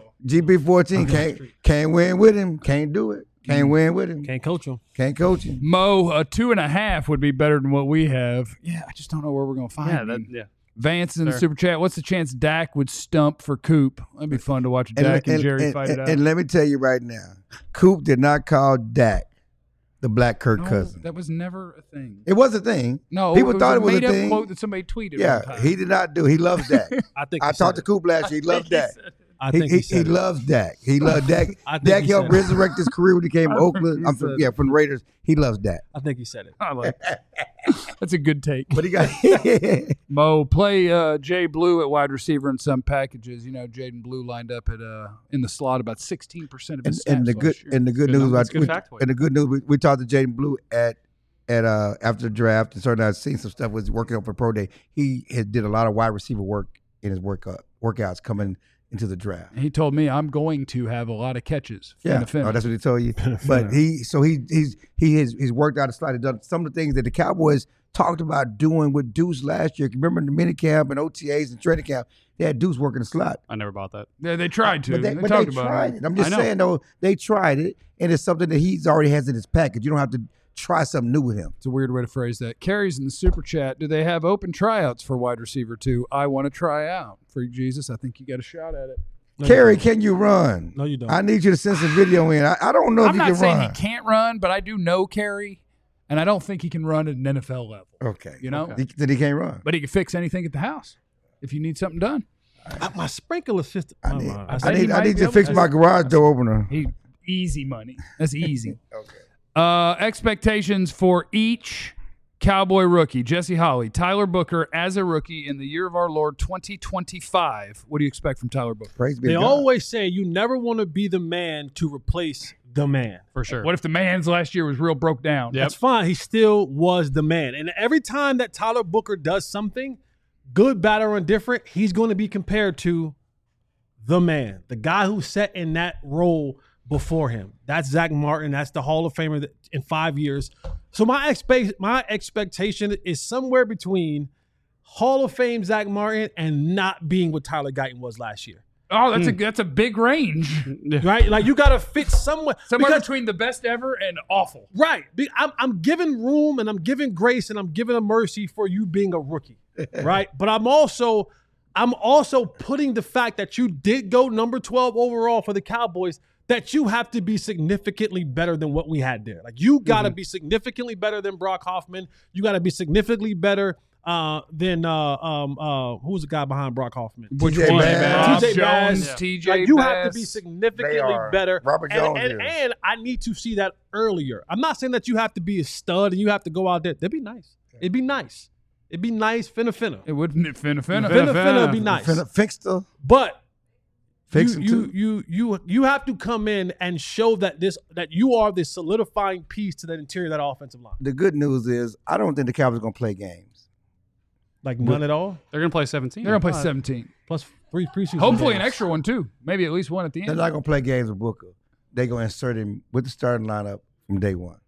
[SPEAKER 2] G P fourteen can't can't win with him. Can't do it. Can't win with him.
[SPEAKER 4] Can't coach him.
[SPEAKER 2] Can't coach him.
[SPEAKER 1] Mo, a two and a half would be better than what we have. Yeah, I just don't know where we're going to find
[SPEAKER 3] Yeah,
[SPEAKER 1] him.
[SPEAKER 3] that, yeah.
[SPEAKER 1] Vance in the
[SPEAKER 3] Fair.
[SPEAKER 1] super chat. What's the chance Dak would stump for Coop? That'd be fun to watch Dak and, Jerry fight it out.
[SPEAKER 2] And let me tell you right now, Coop did not call Dak the black Kirk
[SPEAKER 1] No,
[SPEAKER 2] Cousins.
[SPEAKER 1] that was never a thing.
[SPEAKER 2] It was a thing.
[SPEAKER 1] No,
[SPEAKER 2] people
[SPEAKER 1] it was
[SPEAKER 2] thought
[SPEAKER 1] a
[SPEAKER 2] it was a
[SPEAKER 1] made-up
[SPEAKER 2] thing.
[SPEAKER 1] quote that somebody tweeted.
[SPEAKER 2] Yeah,
[SPEAKER 1] one time.
[SPEAKER 2] he did not do. He loves Dak.
[SPEAKER 4] I think
[SPEAKER 2] I
[SPEAKER 4] he said
[SPEAKER 2] talked to
[SPEAKER 4] it.
[SPEAKER 2] Coop last year. He loves Dak.
[SPEAKER 4] I
[SPEAKER 2] He,
[SPEAKER 4] think
[SPEAKER 2] he,
[SPEAKER 4] he, said
[SPEAKER 2] he
[SPEAKER 4] it.
[SPEAKER 2] loves Dak. He loves Dak.
[SPEAKER 4] I think
[SPEAKER 2] Dak
[SPEAKER 4] he
[SPEAKER 2] helped
[SPEAKER 4] said it.
[SPEAKER 2] resurrect his career when he came to Oakland. I'm from,
[SPEAKER 1] said
[SPEAKER 2] yeah, from the Raiders. He loves Dak.
[SPEAKER 4] I think he said it.
[SPEAKER 1] I like that. That's a good take.
[SPEAKER 2] But he got
[SPEAKER 1] Mo, play uh, Jay Blue at wide receiver in some packages. You know, Jaden Blue lined up at uh, in the slot about sixteen percent of
[SPEAKER 2] and,
[SPEAKER 1] his snaps
[SPEAKER 2] and the
[SPEAKER 1] last
[SPEAKER 2] good
[SPEAKER 1] year.
[SPEAKER 2] and the good
[SPEAKER 3] Good
[SPEAKER 2] news
[SPEAKER 3] number.
[SPEAKER 2] about
[SPEAKER 3] That's a good
[SPEAKER 2] we-
[SPEAKER 3] factoid.
[SPEAKER 2] and the good news we, we talked to Jaden Blue at at uh after the draft and started I've seen some stuff was working out for pro day. He had did a lot of wide receiver work in his workout workouts coming into the draft.
[SPEAKER 1] And he told me I'm going to have a lot of catches.
[SPEAKER 2] Yeah,
[SPEAKER 1] Finna, finna.
[SPEAKER 2] oh, that's what he told you. But he, so he, he's he has he's worked out a slightly done some of the things that the Cowboys talked about doing with Deuce last year. Remember the mini camp and O T As and training camp, they had Deuce working the slot.
[SPEAKER 3] I never bought that.
[SPEAKER 1] They, they tried to.
[SPEAKER 2] But they,
[SPEAKER 1] they
[SPEAKER 2] but
[SPEAKER 1] talked
[SPEAKER 2] they
[SPEAKER 1] about
[SPEAKER 2] tried
[SPEAKER 1] it.
[SPEAKER 2] it. I'm just
[SPEAKER 1] I know.
[SPEAKER 2] saying though, they tried it, and it's something that he's already has in his package. You don't have to try something new with him.
[SPEAKER 1] It's a weird way to phrase that. Carrie's in the super chat. Do they have open tryouts for wide receiver two? I want to try out. Freak Jesus, I think you got a shot at it.
[SPEAKER 4] No, you
[SPEAKER 2] Kerry,
[SPEAKER 4] don't.
[SPEAKER 2] can you run?
[SPEAKER 4] No, you don't.
[SPEAKER 2] I need you to send some video in. I, I don't know if
[SPEAKER 1] I'm
[SPEAKER 2] you
[SPEAKER 1] not
[SPEAKER 2] can
[SPEAKER 1] saying
[SPEAKER 2] run.
[SPEAKER 1] he can't run, but I do know Carrie, and I don't think he can run at an N F L level.
[SPEAKER 2] Okay.
[SPEAKER 1] You know?
[SPEAKER 2] He, then he can't run.
[SPEAKER 1] But he can fix anything at the house if you need something done.
[SPEAKER 4] I- my sprinkler system.
[SPEAKER 2] I
[SPEAKER 4] oh,
[SPEAKER 2] need,
[SPEAKER 4] my-
[SPEAKER 2] I
[SPEAKER 1] said he
[SPEAKER 2] need, I
[SPEAKER 1] might
[SPEAKER 2] need
[SPEAKER 1] be
[SPEAKER 2] to
[SPEAKER 1] able
[SPEAKER 2] fix
[SPEAKER 1] to-
[SPEAKER 2] my garage door opener.
[SPEAKER 1] He easy money. That's easy.
[SPEAKER 2] Okay.
[SPEAKER 1] Uh, expectations for each Cowboy rookie. Jesse Holley, Tyler Booker as a rookie in the year of our Lord twenty twenty-five. What do you expect from Tyler Booker?
[SPEAKER 2] Praise be
[SPEAKER 4] They
[SPEAKER 2] to God.
[SPEAKER 4] always say you never want to be the man to replace the man.
[SPEAKER 3] For sure.
[SPEAKER 1] What if the man's last year was real broke down?
[SPEAKER 3] Yep.
[SPEAKER 4] That's fine. He still was the man. And every time that Tyler Booker does something, good, bad, or indifferent, he's going to be compared to the man, the guy who sat in that role before him. That's Zach Martin. That's the Hall of Famer that, in five years. So my expect my expectation is somewhere between Hall of Fame Zach Martin and not being what Tyler Guyton was last year.
[SPEAKER 1] Oh, that's a that's a big range.
[SPEAKER 4] Right? Like you got to fit somewhere.
[SPEAKER 1] Somewhere
[SPEAKER 4] because-
[SPEAKER 1] between the best ever and awful.
[SPEAKER 4] Right. Be- I'm, I'm giving room and I'm giving grace and I'm giving a mercy for you being a rookie. Right. But I'm also I'm also putting the fact that you did go number twelve overall for the Cowboys, that you have to be significantly better than what we had there. Like you got to be significantly better than Brock Hoffman. You got to be significantly better uh, than uh, um uh who's the guy behind Brock Hoffman?
[SPEAKER 1] Which
[SPEAKER 2] T J
[SPEAKER 1] one?
[SPEAKER 2] Bass.
[SPEAKER 1] Rob
[SPEAKER 4] T J
[SPEAKER 1] Jones,
[SPEAKER 4] Bass.
[SPEAKER 1] T J
[SPEAKER 4] Like you have to be
[SPEAKER 1] Bass.
[SPEAKER 4] significantly
[SPEAKER 2] They are.
[SPEAKER 4] better.
[SPEAKER 2] Robert
[SPEAKER 4] and,
[SPEAKER 2] Jones
[SPEAKER 4] and,
[SPEAKER 2] is.
[SPEAKER 4] and I need to see that earlier. I'm not saying that you have to be a stud and you have to go out there. That'd be nice. It'd be nice. It'd be nice, finna finna.
[SPEAKER 1] It wouldn't finna finna.
[SPEAKER 4] Finna finna would be nice.
[SPEAKER 2] Finna fix the
[SPEAKER 4] But
[SPEAKER 2] fix
[SPEAKER 4] you,
[SPEAKER 2] him
[SPEAKER 4] you,
[SPEAKER 2] too.
[SPEAKER 4] you you you have to come in and show that this that you are this solidifying piece to the interior of that offensive line.
[SPEAKER 2] The good news is I don't think the Cowboys are gonna play games.
[SPEAKER 4] Like none at all.
[SPEAKER 3] They're going to play seventeen.
[SPEAKER 1] They're gonna play seventeen.
[SPEAKER 4] Plus three preseason.
[SPEAKER 1] Hopefully an
[SPEAKER 4] games.
[SPEAKER 1] extra one too. Maybe at least one at the
[SPEAKER 2] They're
[SPEAKER 1] end.
[SPEAKER 2] not gonna play games with Booker. They're gonna insert him with the starting lineup from day one.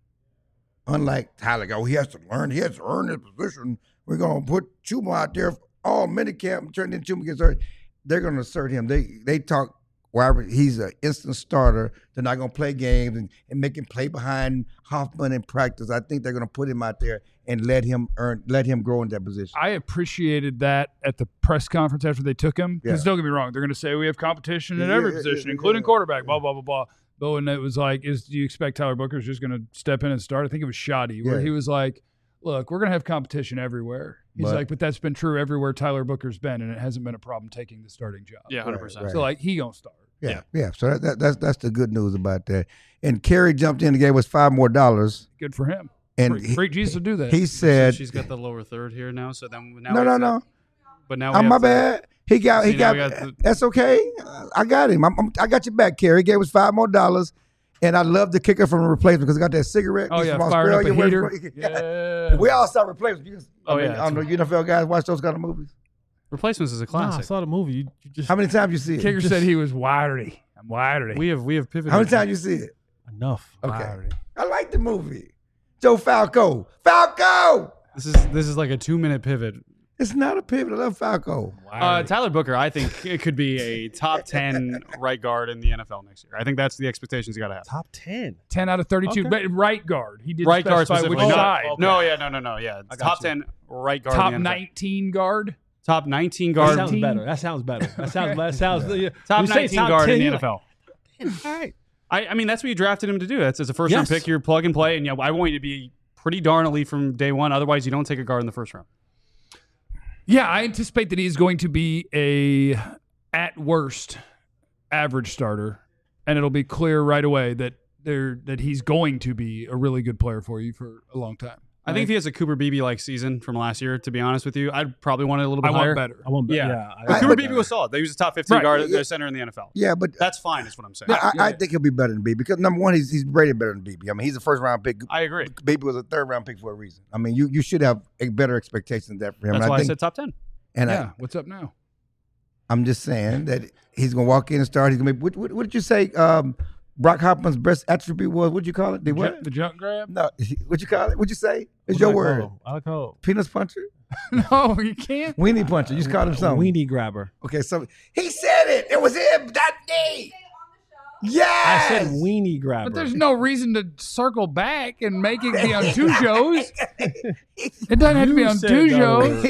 [SPEAKER 2] Unlike Tyler, oh, he has to learn, he has to earn his position. We're gonna put Chuma out there all minicamp and turn into Chuma gets hurt. They're gonna assert him. They they talk wherever he's an instant starter. They're not gonna play games and, and make him play behind Hoffman in practice. I think they're gonna put him out there and let him earn, let him grow in that position.
[SPEAKER 1] I appreciated that at the press conference after they took him. Because
[SPEAKER 2] Yeah.
[SPEAKER 1] don't get me wrong, they're going to say we have competition at
[SPEAKER 2] Yeah,
[SPEAKER 1] every
[SPEAKER 2] yeah,
[SPEAKER 1] position,
[SPEAKER 2] yeah,
[SPEAKER 1] including
[SPEAKER 2] yeah.
[SPEAKER 1] quarterback. Blah blah blah blah. But when it was like, is do you expect Tyler Booker's just going to step in and start? I think it was Shoddy where
[SPEAKER 2] Yeah.
[SPEAKER 1] he was like, "Look, we're going to have competition everywhere." He's
[SPEAKER 2] But-
[SPEAKER 1] like, "But that's been true everywhere Tyler Booker's been, and it hasn't been a problem taking the starting job."
[SPEAKER 3] Yeah, one hundred percent.
[SPEAKER 2] Right.
[SPEAKER 1] So like he gonna start.
[SPEAKER 2] Yeah, yeah. So that, that, that's that's the good news about that. And Kerry jumped in and gave us five more dollars.
[SPEAKER 1] Good for him.
[SPEAKER 2] And
[SPEAKER 1] Freak,
[SPEAKER 2] he,
[SPEAKER 1] Freak Jesus will do that.
[SPEAKER 2] he said,
[SPEAKER 3] She's got the lower third here now. So then now
[SPEAKER 2] "No,
[SPEAKER 3] we
[SPEAKER 2] no,
[SPEAKER 3] have to-
[SPEAKER 2] no.
[SPEAKER 3] But now we
[SPEAKER 2] Oh,
[SPEAKER 3] have
[SPEAKER 2] my
[SPEAKER 3] to-
[SPEAKER 2] bad. He got. He
[SPEAKER 3] See, now
[SPEAKER 2] got.
[SPEAKER 3] we got the-
[SPEAKER 2] That's okay. I got him. I'm, I'm, I got you back, Kerry. He gave us five more dollars, and I love the kicker from a replacement because he got that cigarette.
[SPEAKER 1] oh
[SPEAKER 2] He's
[SPEAKER 1] yeah,
[SPEAKER 2] from
[SPEAKER 1] firing up a
[SPEAKER 2] Australia.
[SPEAKER 1] heater.
[SPEAKER 2] Where-
[SPEAKER 1] Yeah.
[SPEAKER 2] We all saw replacements. You just-
[SPEAKER 3] Oh,
[SPEAKER 2] I mean,
[SPEAKER 3] yeah,
[SPEAKER 2] I don't know. You N F L guys watch those kind of movies.
[SPEAKER 3] Replacements is a
[SPEAKER 4] Nah, I
[SPEAKER 3] classic.
[SPEAKER 4] saw the movie. You, you just
[SPEAKER 2] How many times you see it?
[SPEAKER 1] Kicker said he was wiry. I'm wiry.
[SPEAKER 3] we have we have pivoted.
[SPEAKER 2] How many times you see it?
[SPEAKER 4] enough.
[SPEAKER 2] Okay. I like the movie. Joe Falco. Falco.
[SPEAKER 3] This is this is like a two minute pivot.
[SPEAKER 2] It's not a pivot. I love Falco.
[SPEAKER 3] Uh, Tyler Booker, I think it could be a top ten right guard in the N F L next year. I think that's the expectations you got to have.
[SPEAKER 4] Top ten.
[SPEAKER 1] ten out of thirty-two.
[SPEAKER 3] Okay.
[SPEAKER 1] But right guard. He did
[SPEAKER 3] Right guard
[SPEAKER 1] specify
[SPEAKER 3] specifically.
[SPEAKER 1] which
[SPEAKER 3] No,
[SPEAKER 1] side.
[SPEAKER 3] no, yeah, no, no, no, yeah.
[SPEAKER 4] I got
[SPEAKER 3] Top
[SPEAKER 4] you.
[SPEAKER 3] ten right guard.
[SPEAKER 1] Top
[SPEAKER 3] in the N F L.
[SPEAKER 1] nineteen guard.
[SPEAKER 3] Top nineteen
[SPEAKER 4] That
[SPEAKER 3] guard.
[SPEAKER 4] sounds
[SPEAKER 1] team.
[SPEAKER 4] better. That sounds better. That sounds. That sounds. Yeah.
[SPEAKER 3] Top
[SPEAKER 4] You say
[SPEAKER 3] nineteen
[SPEAKER 4] top
[SPEAKER 3] guard
[SPEAKER 4] ten,
[SPEAKER 3] in the
[SPEAKER 4] you're
[SPEAKER 3] N F L.
[SPEAKER 4] like, all right.
[SPEAKER 3] I, I mean, that's what you drafted him to do. That's as a first round
[SPEAKER 4] Yes.
[SPEAKER 3] pick. You're plug and play, and you know, I want you to be pretty darn elite from day one. Otherwise, you don't take a guard in the first round.
[SPEAKER 1] Yeah, I anticipate that he's going to be a, at worst, average starter, and it'll be clear right away that they're that he's going to be a really good player for you for a long time.
[SPEAKER 3] I think if he has a Cooper Beebe like season from last year, to be honest with you, I'd probably want it a little bit
[SPEAKER 1] I
[SPEAKER 3] higher.
[SPEAKER 1] want better.
[SPEAKER 4] I want better.
[SPEAKER 3] Yeah.
[SPEAKER 4] Yeah.
[SPEAKER 3] But
[SPEAKER 4] I-
[SPEAKER 3] Cooper
[SPEAKER 2] I-
[SPEAKER 3] Beebe was solid. He was a top fifteen
[SPEAKER 1] Right.
[SPEAKER 3] guard,
[SPEAKER 2] Yeah.
[SPEAKER 3] uh, center in the N F L.
[SPEAKER 2] Yeah, but
[SPEAKER 3] That's fine, is what I'm saying.
[SPEAKER 2] but I, I
[SPEAKER 1] Yeah.
[SPEAKER 2] think he'll be better than Beebe because number one, he's he's rated better than Beebe. I mean, he's a first round pick.
[SPEAKER 3] I agree.
[SPEAKER 2] Beebe was a third round pick for a reason. I mean, you you should have a better expectation than that for him.
[SPEAKER 3] That's
[SPEAKER 2] and
[SPEAKER 3] why
[SPEAKER 2] I
[SPEAKER 3] I
[SPEAKER 2] think,
[SPEAKER 3] said top ten.
[SPEAKER 2] and
[SPEAKER 1] Yeah. What's up now?
[SPEAKER 2] I, I'm just saying that he's gonna walk in and start. He's gonna be. What, what, what did you say? Um, Brock Hopman's best attribute was? What'd you call it? The what?
[SPEAKER 1] The junk grab?
[SPEAKER 2] No, what'd you call it? What'd you say? It's
[SPEAKER 4] What
[SPEAKER 2] your
[SPEAKER 4] do I
[SPEAKER 2] word.
[SPEAKER 4] call him? I call
[SPEAKER 2] Peanuts puncher,
[SPEAKER 1] No, you can't.
[SPEAKER 2] weenie puncher. You just called him
[SPEAKER 4] him
[SPEAKER 2] something.
[SPEAKER 4] weenie grabber.
[SPEAKER 2] Okay, so he said it. It was him. That day. Yeah.
[SPEAKER 4] I said weenie grabber.
[SPEAKER 1] But there's no reason to circle back and make it be on two shows. It doesn't have to be
[SPEAKER 4] You
[SPEAKER 1] on
[SPEAKER 4] said
[SPEAKER 1] two
[SPEAKER 4] that
[SPEAKER 1] shows.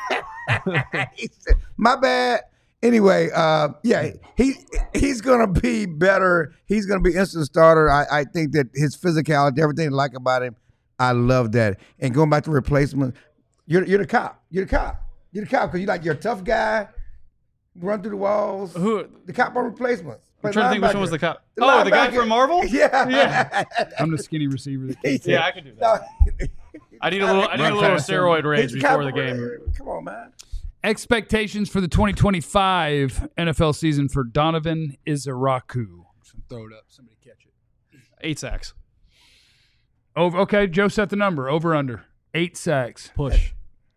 [SPEAKER 4] word.
[SPEAKER 2] He said, my bad. Anyway, uh, yeah, he he's gonna be better. He's gonna be instant starter. I, I think that his physicality, everything I like about him, I love that. And going back to replacement, you're you're the cop. You're the cop. You're the cop because you like you're a tough guy. Run through the walls.
[SPEAKER 3] Who?
[SPEAKER 2] The cop on replacements.
[SPEAKER 3] I'm trying to think which one was the cop.
[SPEAKER 2] The
[SPEAKER 3] Oh, the guy
[SPEAKER 2] linebacker.
[SPEAKER 3] from Marvel?
[SPEAKER 2] Yeah.
[SPEAKER 3] Yeah.
[SPEAKER 1] I'm the skinny receiver. That
[SPEAKER 2] He
[SPEAKER 1] can't
[SPEAKER 2] said-
[SPEAKER 3] Yeah, I could do that.
[SPEAKER 2] No,
[SPEAKER 3] I need a little. I need a little steroid rage
[SPEAKER 2] he's
[SPEAKER 3] before
[SPEAKER 2] cop-
[SPEAKER 3] the game.
[SPEAKER 2] Come on, man.
[SPEAKER 1] Expectations for the twenty twenty-five N F L season for Donovan Izaraku. Just gonna throw it up. Somebody catch it.
[SPEAKER 3] Eight sacks.
[SPEAKER 1] Over. Okay, Joe set the number. Over under eight sacks.
[SPEAKER 4] Push.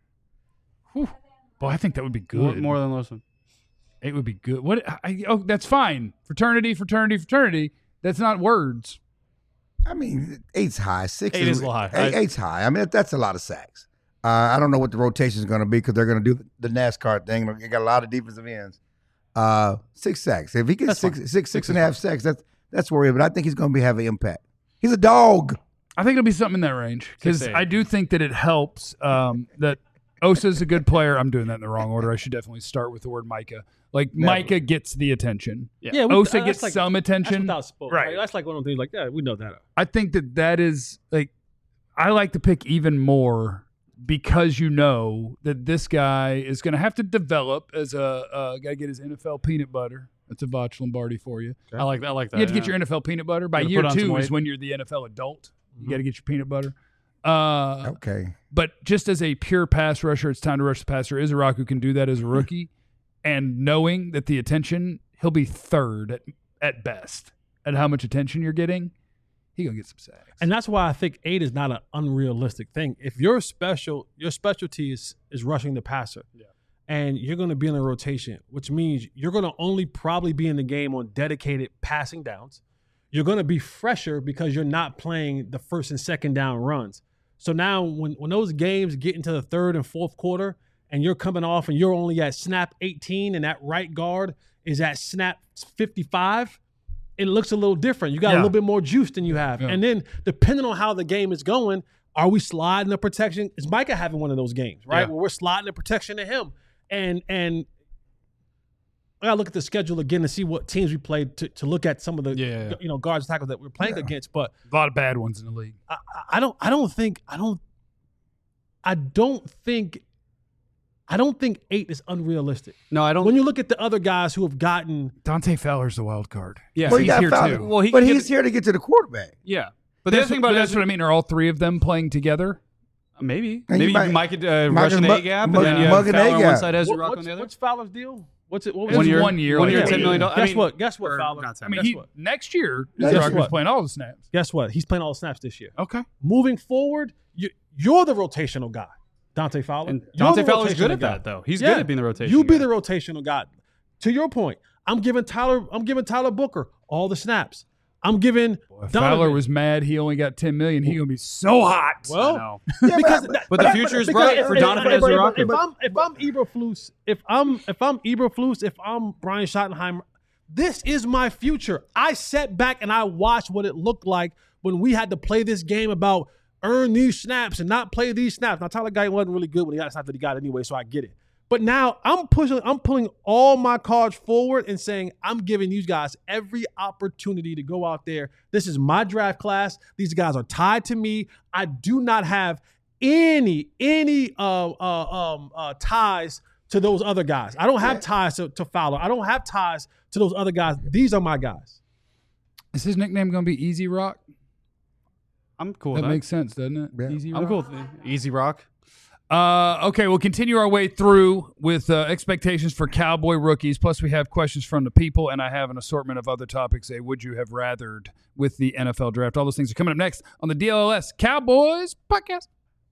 [SPEAKER 1] Whew. Boy, I think that would be
[SPEAKER 3] More,
[SPEAKER 1] good.
[SPEAKER 3] more than Lawson.
[SPEAKER 1] It would be good. What? I, oh, that's fine. Fraternity, fraternity, fraternity. That's not words.
[SPEAKER 2] I mean, eight's high. Six
[SPEAKER 3] Eight is a little high.
[SPEAKER 2] Eight,
[SPEAKER 3] I-
[SPEAKER 2] eight's high. I mean, that, that's a lot of sacks. Uh, I don't know what the rotation is going to be because they're going to do the NASCAR thing. They got a lot of defensive ends. Uh, six sacks. If he gets
[SPEAKER 3] That's
[SPEAKER 2] six,
[SPEAKER 3] fine.
[SPEAKER 2] six, six,
[SPEAKER 3] Six
[SPEAKER 2] and
[SPEAKER 3] is
[SPEAKER 2] a half sacks, that's that's worrying. But I think he's going to be have an impact. He's a dog.
[SPEAKER 1] I think it'll be something in that range because
[SPEAKER 3] Six to eight.
[SPEAKER 1] I do think that it helps um, that Osa's a good player. I'm doing that in the wrong order. I should definitely start with the word Micah. Like
[SPEAKER 2] Never.
[SPEAKER 1] Micah gets the attention.
[SPEAKER 3] Yeah.
[SPEAKER 4] we-
[SPEAKER 1] Osa
[SPEAKER 4] that's
[SPEAKER 1] gets
[SPEAKER 4] like-
[SPEAKER 1] some
[SPEAKER 4] That's
[SPEAKER 1] attention.
[SPEAKER 4] without spoke.
[SPEAKER 1] Right.
[SPEAKER 4] Like, that's like one of the things. Like, yeah, we know that.
[SPEAKER 1] I think that that is like I like to pick even more because you know that this guy is going to have to develop as a uh, got to get his N F L peanut butter. That's a Voch Lombardi for you.
[SPEAKER 3] I like that. I like that.
[SPEAKER 1] You have to get
[SPEAKER 3] yeah.
[SPEAKER 1] your N F L peanut butter by
[SPEAKER 3] Gotta
[SPEAKER 1] year
[SPEAKER 3] put on some
[SPEAKER 1] two is
[SPEAKER 3] weight.
[SPEAKER 1] when you're the N F L adult. You
[SPEAKER 4] Mhm.
[SPEAKER 1] got to get your peanut butter. Uh,
[SPEAKER 2] Okay.
[SPEAKER 1] But just as a pure pass rusher, it's time to rush the passer. Izaraku can do that as a rookie, and knowing that the attention, he'll be third at, at best at how much attention you're getting. He gonna get some sacks.
[SPEAKER 4] And that's why I think eight is not an unrealistic thing. If your special your specialty is is rushing the passer,
[SPEAKER 3] Yeah.
[SPEAKER 4] and you're going to be in a rotation, which means you're going to only probably be in the game on dedicated passing downs. You're going to be fresher because you're not playing the first and second down runs. So now when when those games get into the third and fourth quarter, and you're coming off and you're only at snap eighteen, and that right guard is at snap fifty-five. It looks a little different. You got
[SPEAKER 1] Yeah.
[SPEAKER 4] a little bit more juice than you have.
[SPEAKER 1] Yeah.
[SPEAKER 4] And then depending on how the game is going, are we sliding the protection? Is Micah having one of those games, right?
[SPEAKER 1] Yeah.
[SPEAKER 4] Where we're sliding the protection to him. And and I gotta look at the schedule again to see what teams we played to, to look at some of the
[SPEAKER 3] Yeah.
[SPEAKER 4] you know guards and tackles that we're playing
[SPEAKER 2] Yeah.
[SPEAKER 4] against. But
[SPEAKER 1] a lot of bad ones in the league.
[SPEAKER 4] I, I- I don't I don't think I don't I don't think I don't think eight is unrealistic.
[SPEAKER 3] No, I don't.
[SPEAKER 4] When you look at the other guys who have gotten
[SPEAKER 1] Dante Fowler's the wild card.
[SPEAKER 3] yeah.
[SPEAKER 2] Well, you
[SPEAKER 1] he's
[SPEAKER 2] got
[SPEAKER 1] here
[SPEAKER 2] Fowler.
[SPEAKER 1] too.
[SPEAKER 3] Well, he
[SPEAKER 2] but
[SPEAKER 3] can
[SPEAKER 2] he's
[SPEAKER 3] get-
[SPEAKER 2] here to get to the quarterback.
[SPEAKER 3] yeah. But the
[SPEAKER 1] That's,
[SPEAKER 3] other thing
[SPEAKER 1] but
[SPEAKER 3] about it
[SPEAKER 1] that's
[SPEAKER 3] is
[SPEAKER 1] what I mean. Are all three of them playing together?
[SPEAKER 3] maybe
[SPEAKER 2] And
[SPEAKER 3] maybe
[SPEAKER 2] you might-
[SPEAKER 3] Mike could uh,
[SPEAKER 2] Mike
[SPEAKER 3] rush
[SPEAKER 2] and
[SPEAKER 3] an
[SPEAKER 2] Mug-
[SPEAKER 3] A gap,
[SPEAKER 2] Mug-
[SPEAKER 3] and then you
[SPEAKER 2] Mug
[SPEAKER 3] have
[SPEAKER 2] and A
[SPEAKER 3] Fowler on one
[SPEAKER 2] gap.
[SPEAKER 3] side, Ezra
[SPEAKER 4] what,
[SPEAKER 3] Rock on
[SPEAKER 4] what's,
[SPEAKER 3] the other.
[SPEAKER 4] what's Fowler's deal? What's it? What
[SPEAKER 1] It
[SPEAKER 4] was
[SPEAKER 1] was
[SPEAKER 4] it?
[SPEAKER 3] year-
[SPEAKER 1] one year.
[SPEAKER 3] one
[SPEAKER 1] like
[SPEAKER 3] year,
[SPEAKER 1] that.
[SPEAKER 3] ten million dollars.
[SPEAKER 4] Guess
[SPEAKER 3] I mean,
[SPEAKER 4] what? Guess what,
[SPEAKER 3] or
[SPEAKER 4] Fowler?
[SPEAKER 3] not ten
[SPEAKER 1] I mean,
[SPEAKER 4] Guess
[SPEAKER 1] he
[SPEAKER 4] what?
[SPEAKER 1] next year
[SPEAKER 2] Guess
[SPEAKER 1] Izaraku's
[SPEAKER 4] what?
[SPEAKER 1] playing all the snaps.
[SPEAKER 4] Guess what? He's playing all the snaps this year.
[SPEAKER 1] Okay.
[SPEAKER 4] Moving forward, you, you're the rotational guy, Dante Fowler.
[SPEAKER 3] And
[SPEAKER 4] You're
[SPEAKER 3] Dante
[SPEAKER 4] the
[SPEAKER 3] Fowler's good
[SPEAKER 4] rotational
[SPEAKER 3] at
[SPEAKER 4] guy.
[SPEAKER 3] that, though. He's
[SPEAKER 4] Yeah.
[SPEAKER 3] good at being the rotation.
[SPEAKER 4] You be
[SPEAKER 3] guy.
[SPEAKER 4] the rotational guy. To your point, I'm giving Tyler. I'm giving Tyler Booker all the snaps. I'm giving
[SPEAKER 1] If
[SPEAKER 4] Donovan.
[SPEAKER 1] Fowler was mad he only got ten million, he gonna be so hot.
[SPEAKER 3] I
[SPEAKER 4] well.
[SPEAKER 3] know.
[SPEAKER 2] Yeah,
[SPEAKER 4] Because
[SPEAKER 2] but,
[SPEAKER 4] that-
[SPEAKER 3] But the future is
[SPEAKER 4] because
[SPEAKER 3] bright
[SPEAKER 4] if-
[SPEAKER 3] for
[SPEAKER 4] if-
[SPEAKER 3] Donovan
[SPEAKER 4] if- if-
[SPEAKER 3] Izaraku.
[SPEAKER 4] If I'm if I'm Eberflus, if I'm if I'm Eberflus, if I'm Brian Schottenheimer, this is my future. I sat back and I watched what it looked like when we had to play this game about earn these snaps and not play these snaps. Now Tyler Guyton wasn't really good when he got the snaps that he got anyway, so I get it. But now I'm pushing, I'm pulling all my cards forward and saying, I'm giving these guys every opportunity to go out there. This is my draft class. These guys are tied to me. I do not have any, any uh, uh, um, uh, ties to those other guys. I don't have ties to, to Fowler. I don't have ties to those other guys. These are my guys.
[SPEAKER 1] Is his nickname going to be Easy Rock?
[SPEAKER 3] I'm cool
[SPEAKER 1] That
[SPEAKER 3] with
[SPEAKER 1] makes sense, doesn't it?
[SPEAKER 2] Yeah.
[SPEAKER 1] Easy Rock.
[SPEAKER 3] I'm cool with it. Easy Rock.
[SPEAKER 1] Uh, okay, we'll continue our way through with uh, expectations for Cowboy rookies. Plus, we have questions from the people, and I have an assortment of other topics. A would you have rathered with the N F L draft? All those things are coming up next on the D L L S Cowboys podcast.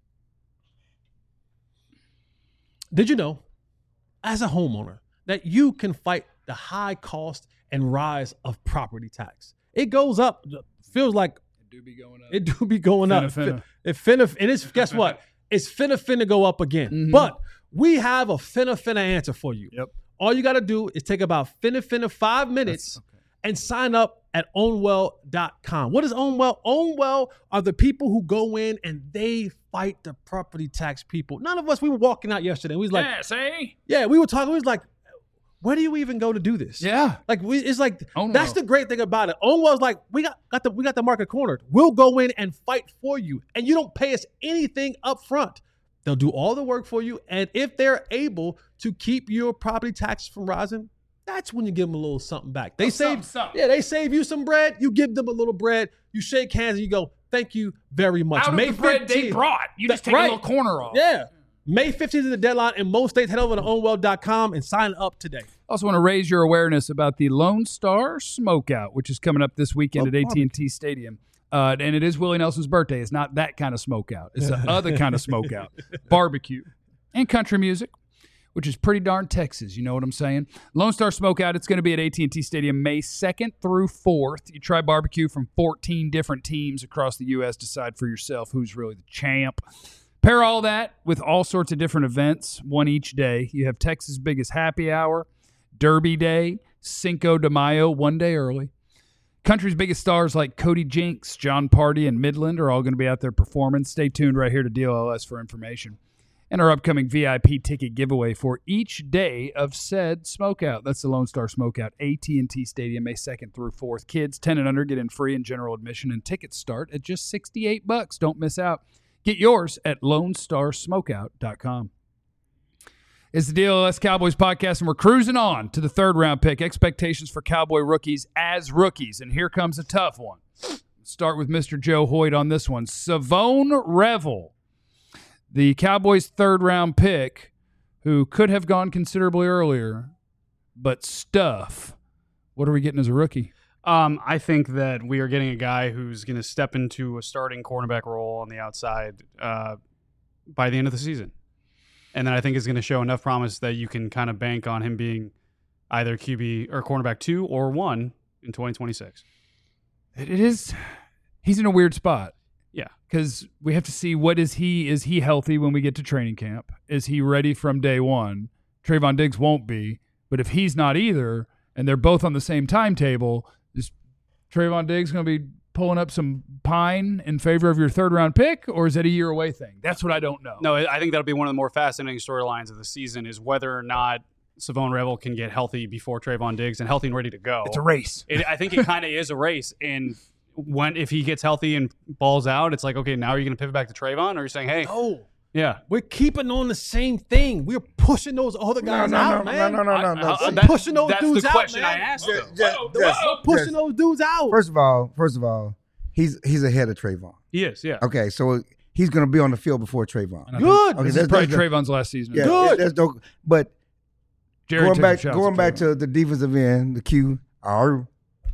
[SPEAKER 4] Did you know, as a homeowner, that you can fight the high cost and rise of property tax? It goes up. Feels like
[SPEAKER 1] It do be going up.
[SPEAKER 4] it do be going
[SPEAKER 1] Finna,
[SPEAKER 4] up.
[SPEAKER 1] finna.
[SPEAKER 4] It finna, and it's guess what? It's finna finna go up again.
[SPEAKER 1] Mhm.
[SPEAKER 4] But we have a finna finna answer for you.
[SPEAKER 1] Yep.
[SPEAKER 4] All you got to do is take about finna finna five minutes
[SPEAKER 1] That's okay.
[SPEAKER 4] and sign up at ownwell dot com. What is Ownwell? Ownwell are the people who go in and they fight the property tax people. None of us, we were walking out yesterday. And we was like,
[SPEAKER 1] yeah, see?
[SPEAKER 4] yeah, we were talking. We was like, where do you even go to do this?
[SPEAKER 1] Yeah.
[SPEAKER 4] Like we, it's like
[SPEAKER 1] Ownwell.
[SPEAKER 4] that's the great thing about it. Ownwell's like we got got the we got the market cornered. We'll go in and fight for you, and you don't pay us anything up front. They'll do all the work for you, and if they're able to keep your property taxes from rising, that's when you give them a little something back. They
[SPEAKER 1] Oh,
[SPEAKER 4] save,
[SPEAKER 1] something, something.
[SPEAKER 4] yeah, they save you some bread. You give them a little bread. You shake hands and you go, "Thank you very much."
[SPEAKER 1] Out of
[SPEAKER 4] May
[SPEAKER 1] the bread they
[SPEAKER 4] fifteenth
[SPEAKER 1] brought. You just
[SPEAKER 4] That-
[SPEAKER 1] take
[SPEAKER 4] right.
[SPEAKER 1] a little corner off.
[SPEAKER 4] Yeah, May fifteenth is the deadline in most states. Head over to ownwell dot com and sign up today.
[SPEAKER 1] Also want to raise your awareness about the Lone Star Smokeout, which is coming up this weekend
[SPEAKER 2] Oh,
[SPEAKER 1] at A T and T Stadium. Uh, and it is Willie Nelson's birthday. It's not that kind of smokeout. It's the other kind of smokeout. Barbecue and country music, which is pretty darn Texas. You know what I'm saying? Lone Star Smokeout, it's going to be at A T and T Stadium May second through fourth. You try barbecue from fourteen different teams across the U S Decide for yourself who's really the champ. Pair all that with all sorts of different events, one each day. You have Texas' biggest happy hour, Derby Day, Cinco de Mayo, one day early. Country's biggest stars like Cody Jinks, John Party, and Midland are all going to be out there performing. Stay tuned right here to D L L S for information. And our upcoming V I P ticket giveaway for each day of said smokeout. That's the Lone Star Smokeout, A T and T Stadium, May second through fourth. Kids ten and under get in free and general admission, and tickets start at just sixty-eight bucks. Don't miss out. Get yours at lone star smokeout dot com. It's the D L L S Cowboys podcast, and we're cruising on to the third round pick. Expectations for Cowboy rookies as rookies. And here comes a tough one. Start with Mister Joe Hoyt on this one. Savone Revel, the Cowboys' third round pick, who could have gone considerably earlier, but stuff. What are we getting as a rookie?
[SPEAKER 3] Um, I think that we are getting a guy who's going to step into a starting cornerback role on the outside uh, by the end of the season. And then I think is going to show enough promise that you can kind of bank on him being either Q B or cornerback two or one in twenty twenty-six.
[SPEAKER 1] It is. He's in a weird spot.
[SPEAKER 3] Yeah.
[SPEAKER 1] Because we have to see what is he. Is he healthy when we get to training camp? Is he ready from day one? Trayvon Diggs won't be. But if he's not either, and they're both on the same timetable, is Trayvon Diggs going to be pulling up some pine in favor of your third round pick, or is that a year away thing? That's what I don't know.
[SPEAKER 3] No, I think that'll be one of the more fascinating storylines of the season is whether or not Savone Revel can get healthy before Trayvon Diggs and healthy and ready to go.
[SPEAKER 1] It's a race.
[SPEAKER 3] It, I think it kind of is a race. And when if he gets healthy and balls out, it's like, okay, now are you going to pivot back to Trayvon, or you're saying, hey,
[SPEAKER 4] No,
[SPEAKER 3] yeah,
[SPEAKER 4] we're keeping on the same thing. We're pushing those other
[SPEAKER 2] No,
[SPEAKER 4] guys
[SPEAKER 2] no,
[SPEAKER 4] out,
[SPEAKER 2] no,
[SPEAKER 4] man.
[SPEAKER 2] no, no, no,
[SPEAKER 3] I-
[SPEAKER 2] no.
[SPEAKER 3] I-
[SPEAKER 2] no.
[SPEAKER 4] I'm
[SPEAKER 3] that-
[SPEAKER 4] pushing those
[SPEAKER 3] that's
[SPEAKER 4] dudes
[SPEAKER 3] the
[SPEAKER 4] out,
[SPEAKER 3] question
[SPEAKER 4] man.
[SPEAKER 3] I asked.
[SPEAKER 2] Just-
[SPEAKER 3] though.
[SPEAKER 2] just-
[SPEAKER 4] We're
[SPEAKER 2] just-
[SPEAKER 4] pushing
[SPEAKER 2] just-
[SPEAKER 4] those dudes out.
[SPEAKER 2] First of all, first of all, he's he's ahead of Trayvon.
[SPEAKER 3] He is, yeah.
[SPEAKER 2] Okay, so he's going to be on the field before Trayvon.
[SPEAKER 1] And I
[SPEAKER 4] Good.
[SPEAKER 1] think
[SPEAKER 2] Okay,
[SPEAKER 1] This is
[SPEAKER 2] that's-
[SPEAKER 1] probably
[SPEAKER 2] that's-
[SPEAKER 1] Trayvon's last season.
[SPEAKER 2] Yeah,
[SPEAKER 4] Good.
[SPEAKER 2] there's no. But
[SPEAKER 1] Jerry
[SPEAKER 2] going
[SPEAKER 1] took
[SPEAKER 2] back,
[SPEAKER 1] some shots
[SPEAKER 2] going
[SPEAKER 1] at
[SPEAKER 2] back
[SPEAKER 1] Trayvon.
[SPEAKER 2] to the defensive end, the Q R.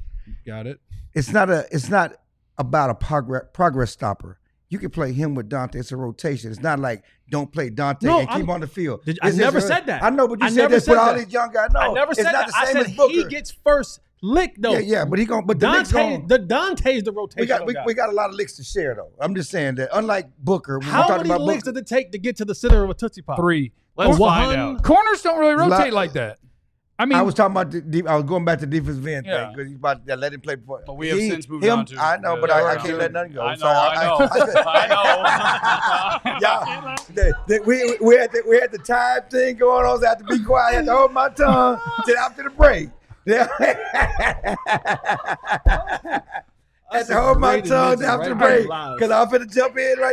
[SPEAKER 1] Got it.
[SPEAKER 2] It's not a. It's not about a progress progress stopper. You can play him with Dante. It's a rotation. It's not like don't play Dante
[SPEAKER 4] No,
[SPEAKER 2] and keep
[SPEAKER 4] I'm-
[SPEAKER 2] him on the field.
[SPEAKER 4] Did- I
[SPEAKER 2] It's
[SPEAKER 4] never
[SPEAKER 2] just-
[SPEAKER 4] said that.
[SPEAKER 2] I know, but you
[SPEAKER 4] I
[SPEAKER 2] said
[SPEAKER 4] never
[SPEAKER 2] this
[SPEAKER 4] said
[SPEAKER 2] with all
[SPEAKER 4] that.
[SPEAKER 2] these young guys. No,
[SPEAKER 4] I never
[SPEAKER 2] it's
[SPEAKER 4] said
[SPEAKER 2] not
[SPEAKER 4] that.
[SPEAKER 2] the
[SPEAKER 4] I
[SPEAKER 2] same
[SPEAKER 4] said
[SPEAKER 2] as Booker.
[SPEAKER 4] he gets first lick though.
[SPEAKER 2] yeah, yeah, but he going but the Knicks
[SPEAKER 4] Dante,
[SPEAKER 2] going
[SPEAKER 4] the Dante's the rotation.
[SPEAKER 2] we got we, we got a lot of licks to share though. I'm just saying that unlike Booker, when we're
[SPEAKER 4] How
[SPEAKER 2] talking
[SPEAKER 4] many
[SPEAKER 2] about
[SPEAKER 4] licks
[SPEAKER 2] Booker,
[SPEAKER 4] did it take to get to the center of a Tootsie Pop?
[SPEAKER 1] Three.
[SPEAKER 3] Let's
[SPEAKER 4] One-
[SPEAKER 3] find out.
[SPEAKER 1] Corners don't really
[SPEAKER 2] There's a lot-
[SPEAKER 1] rotate like that. I mean,
[SPEAKER 2] I was talking about the deep, I was going back to defensive end
[SPEAKER 1] Yeah.
[SPEAKER 2] thing because he's about to let him play before.
[SPEAKER 3] But we have
[SPEAKER 2] He-
[SPEAKER 3] since moved
[SPEAKER 2] him,
[SPEAKER 3] on to-
[SPEAKER 2] I know, but
[SPEAKER 3] Yeah,
[SPEAKER 2] I, I
[SPEAKER 3] right.
[SPEAKER 2] can't let nothing go.
[SPEAKER 3] I
[SPEAKER 2] I'm
[SPEAKER 3] know,
[SPEAKER 2] sorry.
[SPEAKER 3] I know. I know.
[SPEAKER 2] Yeah, they, they, we we had the, we had the time thing going on. So I had to be quiet. I had to hold my tongue till after the break. Yeah. I had to hold my tongue after the break because I'm finna jump in right.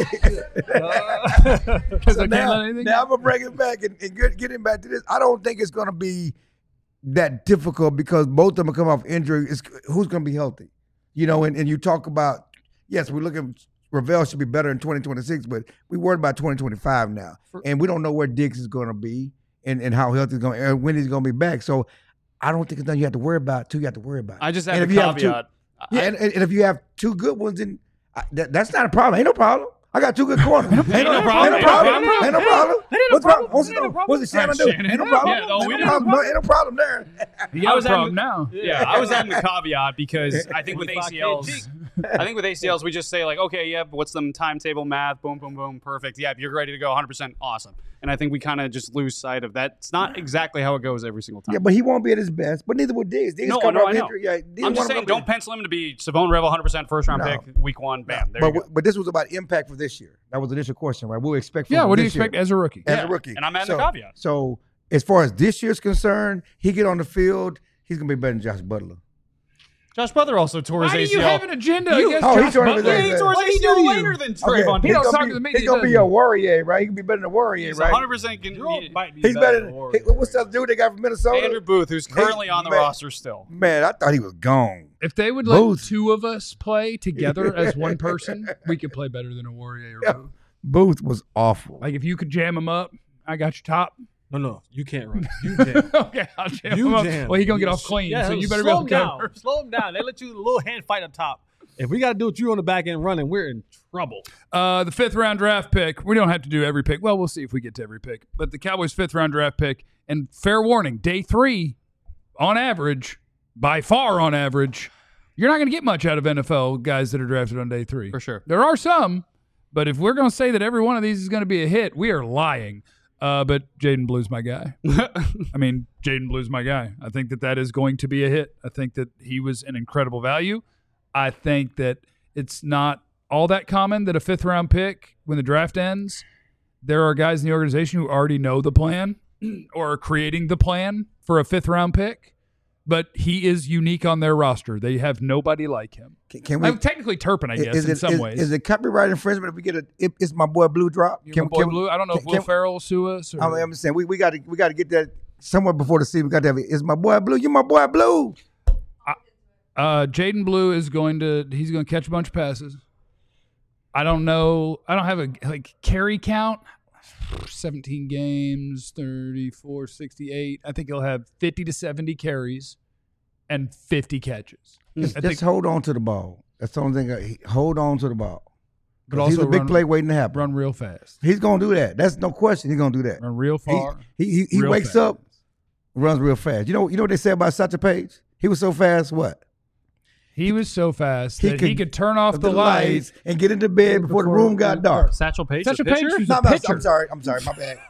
[SPEAKER 1] Because
[SPEAKER 2] so
[SPEAKER 1] I can't
[SPEAKER 2] now,
[SPEAKER 1] let anything.
[SPEAKER 2] now I'm gonna bring it back and, and get, getting back to this. I don't think it's gonna be that difficult because both of them come off injury. It's, who's gonna be healthy? You know, and, and you talk about yes, we're looking. Ravel should be better in twenty twenty-six, but we worried about twenty twenty-five now, and we don't know where Diggs is gonna be and, and how healthy he's gonna and when he's gonna be back. So I don't think it's nothing you have to worry about. Two, you have to worry about.
[SPEAKER 3] I just
[SPEAKER 2] and
[SPEAKER 3] have
[SPEAKER 2] if
[SPEAKER 3] a
[SPEAKER 2] you have
[SPEAKER 3] caveat.
[SPEAKER 2] two, yeah, and, and if you have two good ones, then I, that, that's not a problem. Ain't no problem. I got two good corners. Ain't no problem. Ain't no problem. Ain't no problem. What's wrong? What's the what's the Shannon do? Ain't no problem.
[SPEAKER 3] Yeah, no, we
[SPEAKER 2] Ain't no
[SPEAKER 3] didn't-
[SPEAKER 2] problem. No, ain't no problem there.
[SPEAKER 1] You
[SPEAKER 3] I
[SPEAKER 1] got
[SPEAKER 3] was
[SPEAKER 1] a problem
[SPEAKER 3] having-
[SPEAKER 1] now.
[SPEAKER 3] Yeah, I was adding the caveat because I think with A C Ls, I think with A C Ls we just say like, okay, yeah, but what's the timetable math? Boom, boom, boom, perfect. Yeah, if you're ready to go, one hundred percent awesome. And I think we kind of just lose sight of that. It's not exactly how it goes every single time.
[SPEAKER 2] Yeah, but he won't be at his best. But neither will Diggs. Diggs
[SPEAKER 3] No,
[SPEAKER 2] come
[SPEAKER 3] no,
[SPEAKER 2] off
[SPEAKER 3] I know.
[SPEAKER 2] injury. Yeah, Diggs
[SPEAKER 3] I'm just
[SPEAKER 2] one of
[SPEAKER 3] saying,
[SPEAKER 2] them-
[SPEAKER 3] don't pencil him to be Savone Revel one hundred percent first round
[SPEAKER 2] No.
[SPEAKER 3] pick week one. Bam, there
[SPEAKER 2] But
[SPEAKER 3] you go.
[SPEAKER 2] but this was about impact for this year. That was the initial question, right? What do we expect from
[SPEAKER 1] Yeah,
[SPEAKER 2] him
[SPEAKER 1] what do you
[SPEAKER 2] this year
[SPEAKER 1] expect as a rookie?
[SPEAKER 2] as
[SPEAKER 3] Yeah,
[SPEAKER 2] a rookie?
[SPEAKER 3] and I'm adding
[SPEAKER 2] so,
[SPEAKER 3] the caveat.
[SPEAKER 2] So as far as this year's concerned, he get on the field, he's gonna be better than Josh Butler.
[SPEAKER 3] Josh Butler also tore his
[SPEAKER 1] Why do
[SPEAKER 3] A C L.
[SPEAKER 1] you have an agenda
[SPEAKER 3] You-
[SPEAKER 1] against
[SPEAKER 2] Oh, he
[SPEAKER 1] Josh
[SPEAKER 2] tore his
[SPEAKER 1] Butler?
[SPEAKER 2] A C L.
[SPEAKER 3] Yeah, he tore
[SPEAKER 4] What
[SPEAKER 3] his
[SPEAKER 4] did
[SPEAKER 3] A C L
[SPEAKER 4] he do to you?
[SPEAKER 3] later than
[SPEAKER 2] Okay,
[SPEAKER 3] Trayvon.
[SPEAKER 1] He
[SPEAKER 2] he's
[SPEAKER 1] don't
[SPEAKER 2] gonna
[SPEAKER 1] talk
[SPEAKER 2] be,
[SPEAKER 1] to the media,
[SPEAKER 2] He's gonna be
[SPEAKER 1] doesn't
[SPEAKER 2] a
[SPEAKER 1] he?
[SPEAKER 2] Warrior, right? He can be better than a Warrior,
[SPEAKER 3] He's
[SPEAKER 2] right?
[SPEAKER 3] one hundred percent going
[SPEAKER 4] Jerome
[SPEAKER 3] to
[SPEAKER 4] might be
[SPEAKER 2] He's
[SPEAKER 4] better
[SPEAKER 2] better.
[SPEAKER 4] than
[SPEAKER 2] Than,
[SPEAKER 4] Warrior.
[SPEAKER 2] hey, what's that dude they got from Minnesota?
[SPEAKER 3] Andrew Booth, who's currently on the
[SPEAKER 2] man.
[SPEAKER 3] roster still.
[SPEAKER 2] Man, I thought he was gone.
[SPEAKER 1] If they would let
[SPEAKER 2] Booth.
[SPEAKER 1] two of us play together as one person, we could play better than a Warrior.
[SPEAKER 2] Yeah. Booth was awful.
[SPEAKER 1] Like if you could jam him up, I got your top.
[SPEAKER 4] No, no, you can't run. You jam.
[SPEAKER 1] Okay, I'll jam
[SPEAKER 4] You
[SPEAKER 1] him up.
[SPEAKER 4] jam.
[SPEAKER 1] Well, he gonna get
[SPEAKER 4] You-
[SPEAKER 1] off clean,
[SPEAKER 4] yeah,
[SPEAKER 1] so you better be
[SPEAKER 4] slow
[SPEAKER 1] able to
[SPEAKER 4] him
[SPEAKER 1] cover.
[SPEAKER 4] down. Slow him down. They let you a little hand fight up top. If we got to do it, you on the back end running, we're in trouble.
[SPEAKER 1] Uh, the fifth round draft pick. We don't have to do every pick. Well, we'll see if we get to every pick. But the Cowboys' fifth round draft pick, and fair warning, day three, on average, by far on average, you're not going to get much out of N F L guys that are drafted on day three.
[SPEAKER 3] For sure.
[SPEAKER 1] There are some, but if we're going to say that every one of these is going to be a hit, we are lying. Uh, but Jaden Blue's my guy. I mean, Jaden Blue's my guy. I think that that is going to be a hit. I think that he was an incredible value. I think that it's not all that common that a fifth round pick, when the draft ends, there are guys in the organization who already know the plan or are creating the plan for a fifth round pick. But he is unique on their roster. They have nobody like him.
[SPEAKER 2] Can, can we?
[SPEAKER 1] I'm technically Turpin, I guess,
[SPEAKER 2] is
[SPEAKER 1] in
[SPEAKER 2] it,
[SPEAKER 1] some
[SPEAKER 2] is,
[SPEAKER 1] ways.
[SPEAKER 2] Is it copyright infringement if we get a? If it's my boy Blue drop.
[SPEAKER 1] You know, my boy Blue. I don't know if Will
[SPEAKER 2] can-
[SPEAKER 1] Ferrell will sue us. Or,
[SPEAKER 2] I'm, I'm saying we we got to we got to get that somewhere before the season. We got to have it. Is my boy Blue? You my boy Blue?
[SPEAKER 1] Uh, Jaden Blue is going to he's going to catch a bunch of passes. I don't know. I don't have a like carry count. seventeen games, thirty-four, sixty-eight. I think he'll have fifty to seventy carries and fifty catches.
[SPEAKER 2] Just,
[SPEAKER 1] I
[SPEAKER 2] just
[SPEAKER 1] think,
[SPEAKER 2] hold on to the ball. That's the only thing. I, he- hold on to the ball.
[SPEAKER 1] but
[SPEAKER 2] 'Cause he's
[SPEAKER 1] also
[SPEAKER 2] a big
[SPEAKER 1] run,
[SPEAKER 2] play waiting to happen.
[SPEAKER 1] run real fast.
[SPEAKER 2] He's gonna do that. That's no question. He's gonna do that.
[SPEAKER 1] Run real
[SPEAKER 2] He
[SPEAKER 1] far.
[SPEAKER 2] he he, he
[SPEAKER 1] real
[SPEAKER 2] wakes
[SPEAKER 1] fast.
[SPEAKER 2] up, runs real fast. You know you know what they say about Satchel Paige? He was so fast. What?
[SPEAKER 1] He was so fast
[SPEAKER 2] He
[SPEAKER 1] that he
[SPEAKER 2] could-
[SPEAKER 1] could turn off the, lights.
[SPEAKER 2] and get into bed before the room got dark.
[SPEAKER 3] Satchel Paige,
[SPEAKER 1] Satchel
[SPEAKER 3] the
[SPEAKER 1] Paige
[SPEAKER 3] pitcher?
[SPEAKER 1] was
[SPEAKER 2] No,
[SPEAKER 1] a
[SPEAKER 2] I'm, not-
[SPEAKER 1] pitcher.
[SPEAKER 2] I'm sorry. I'm sorry. My bad.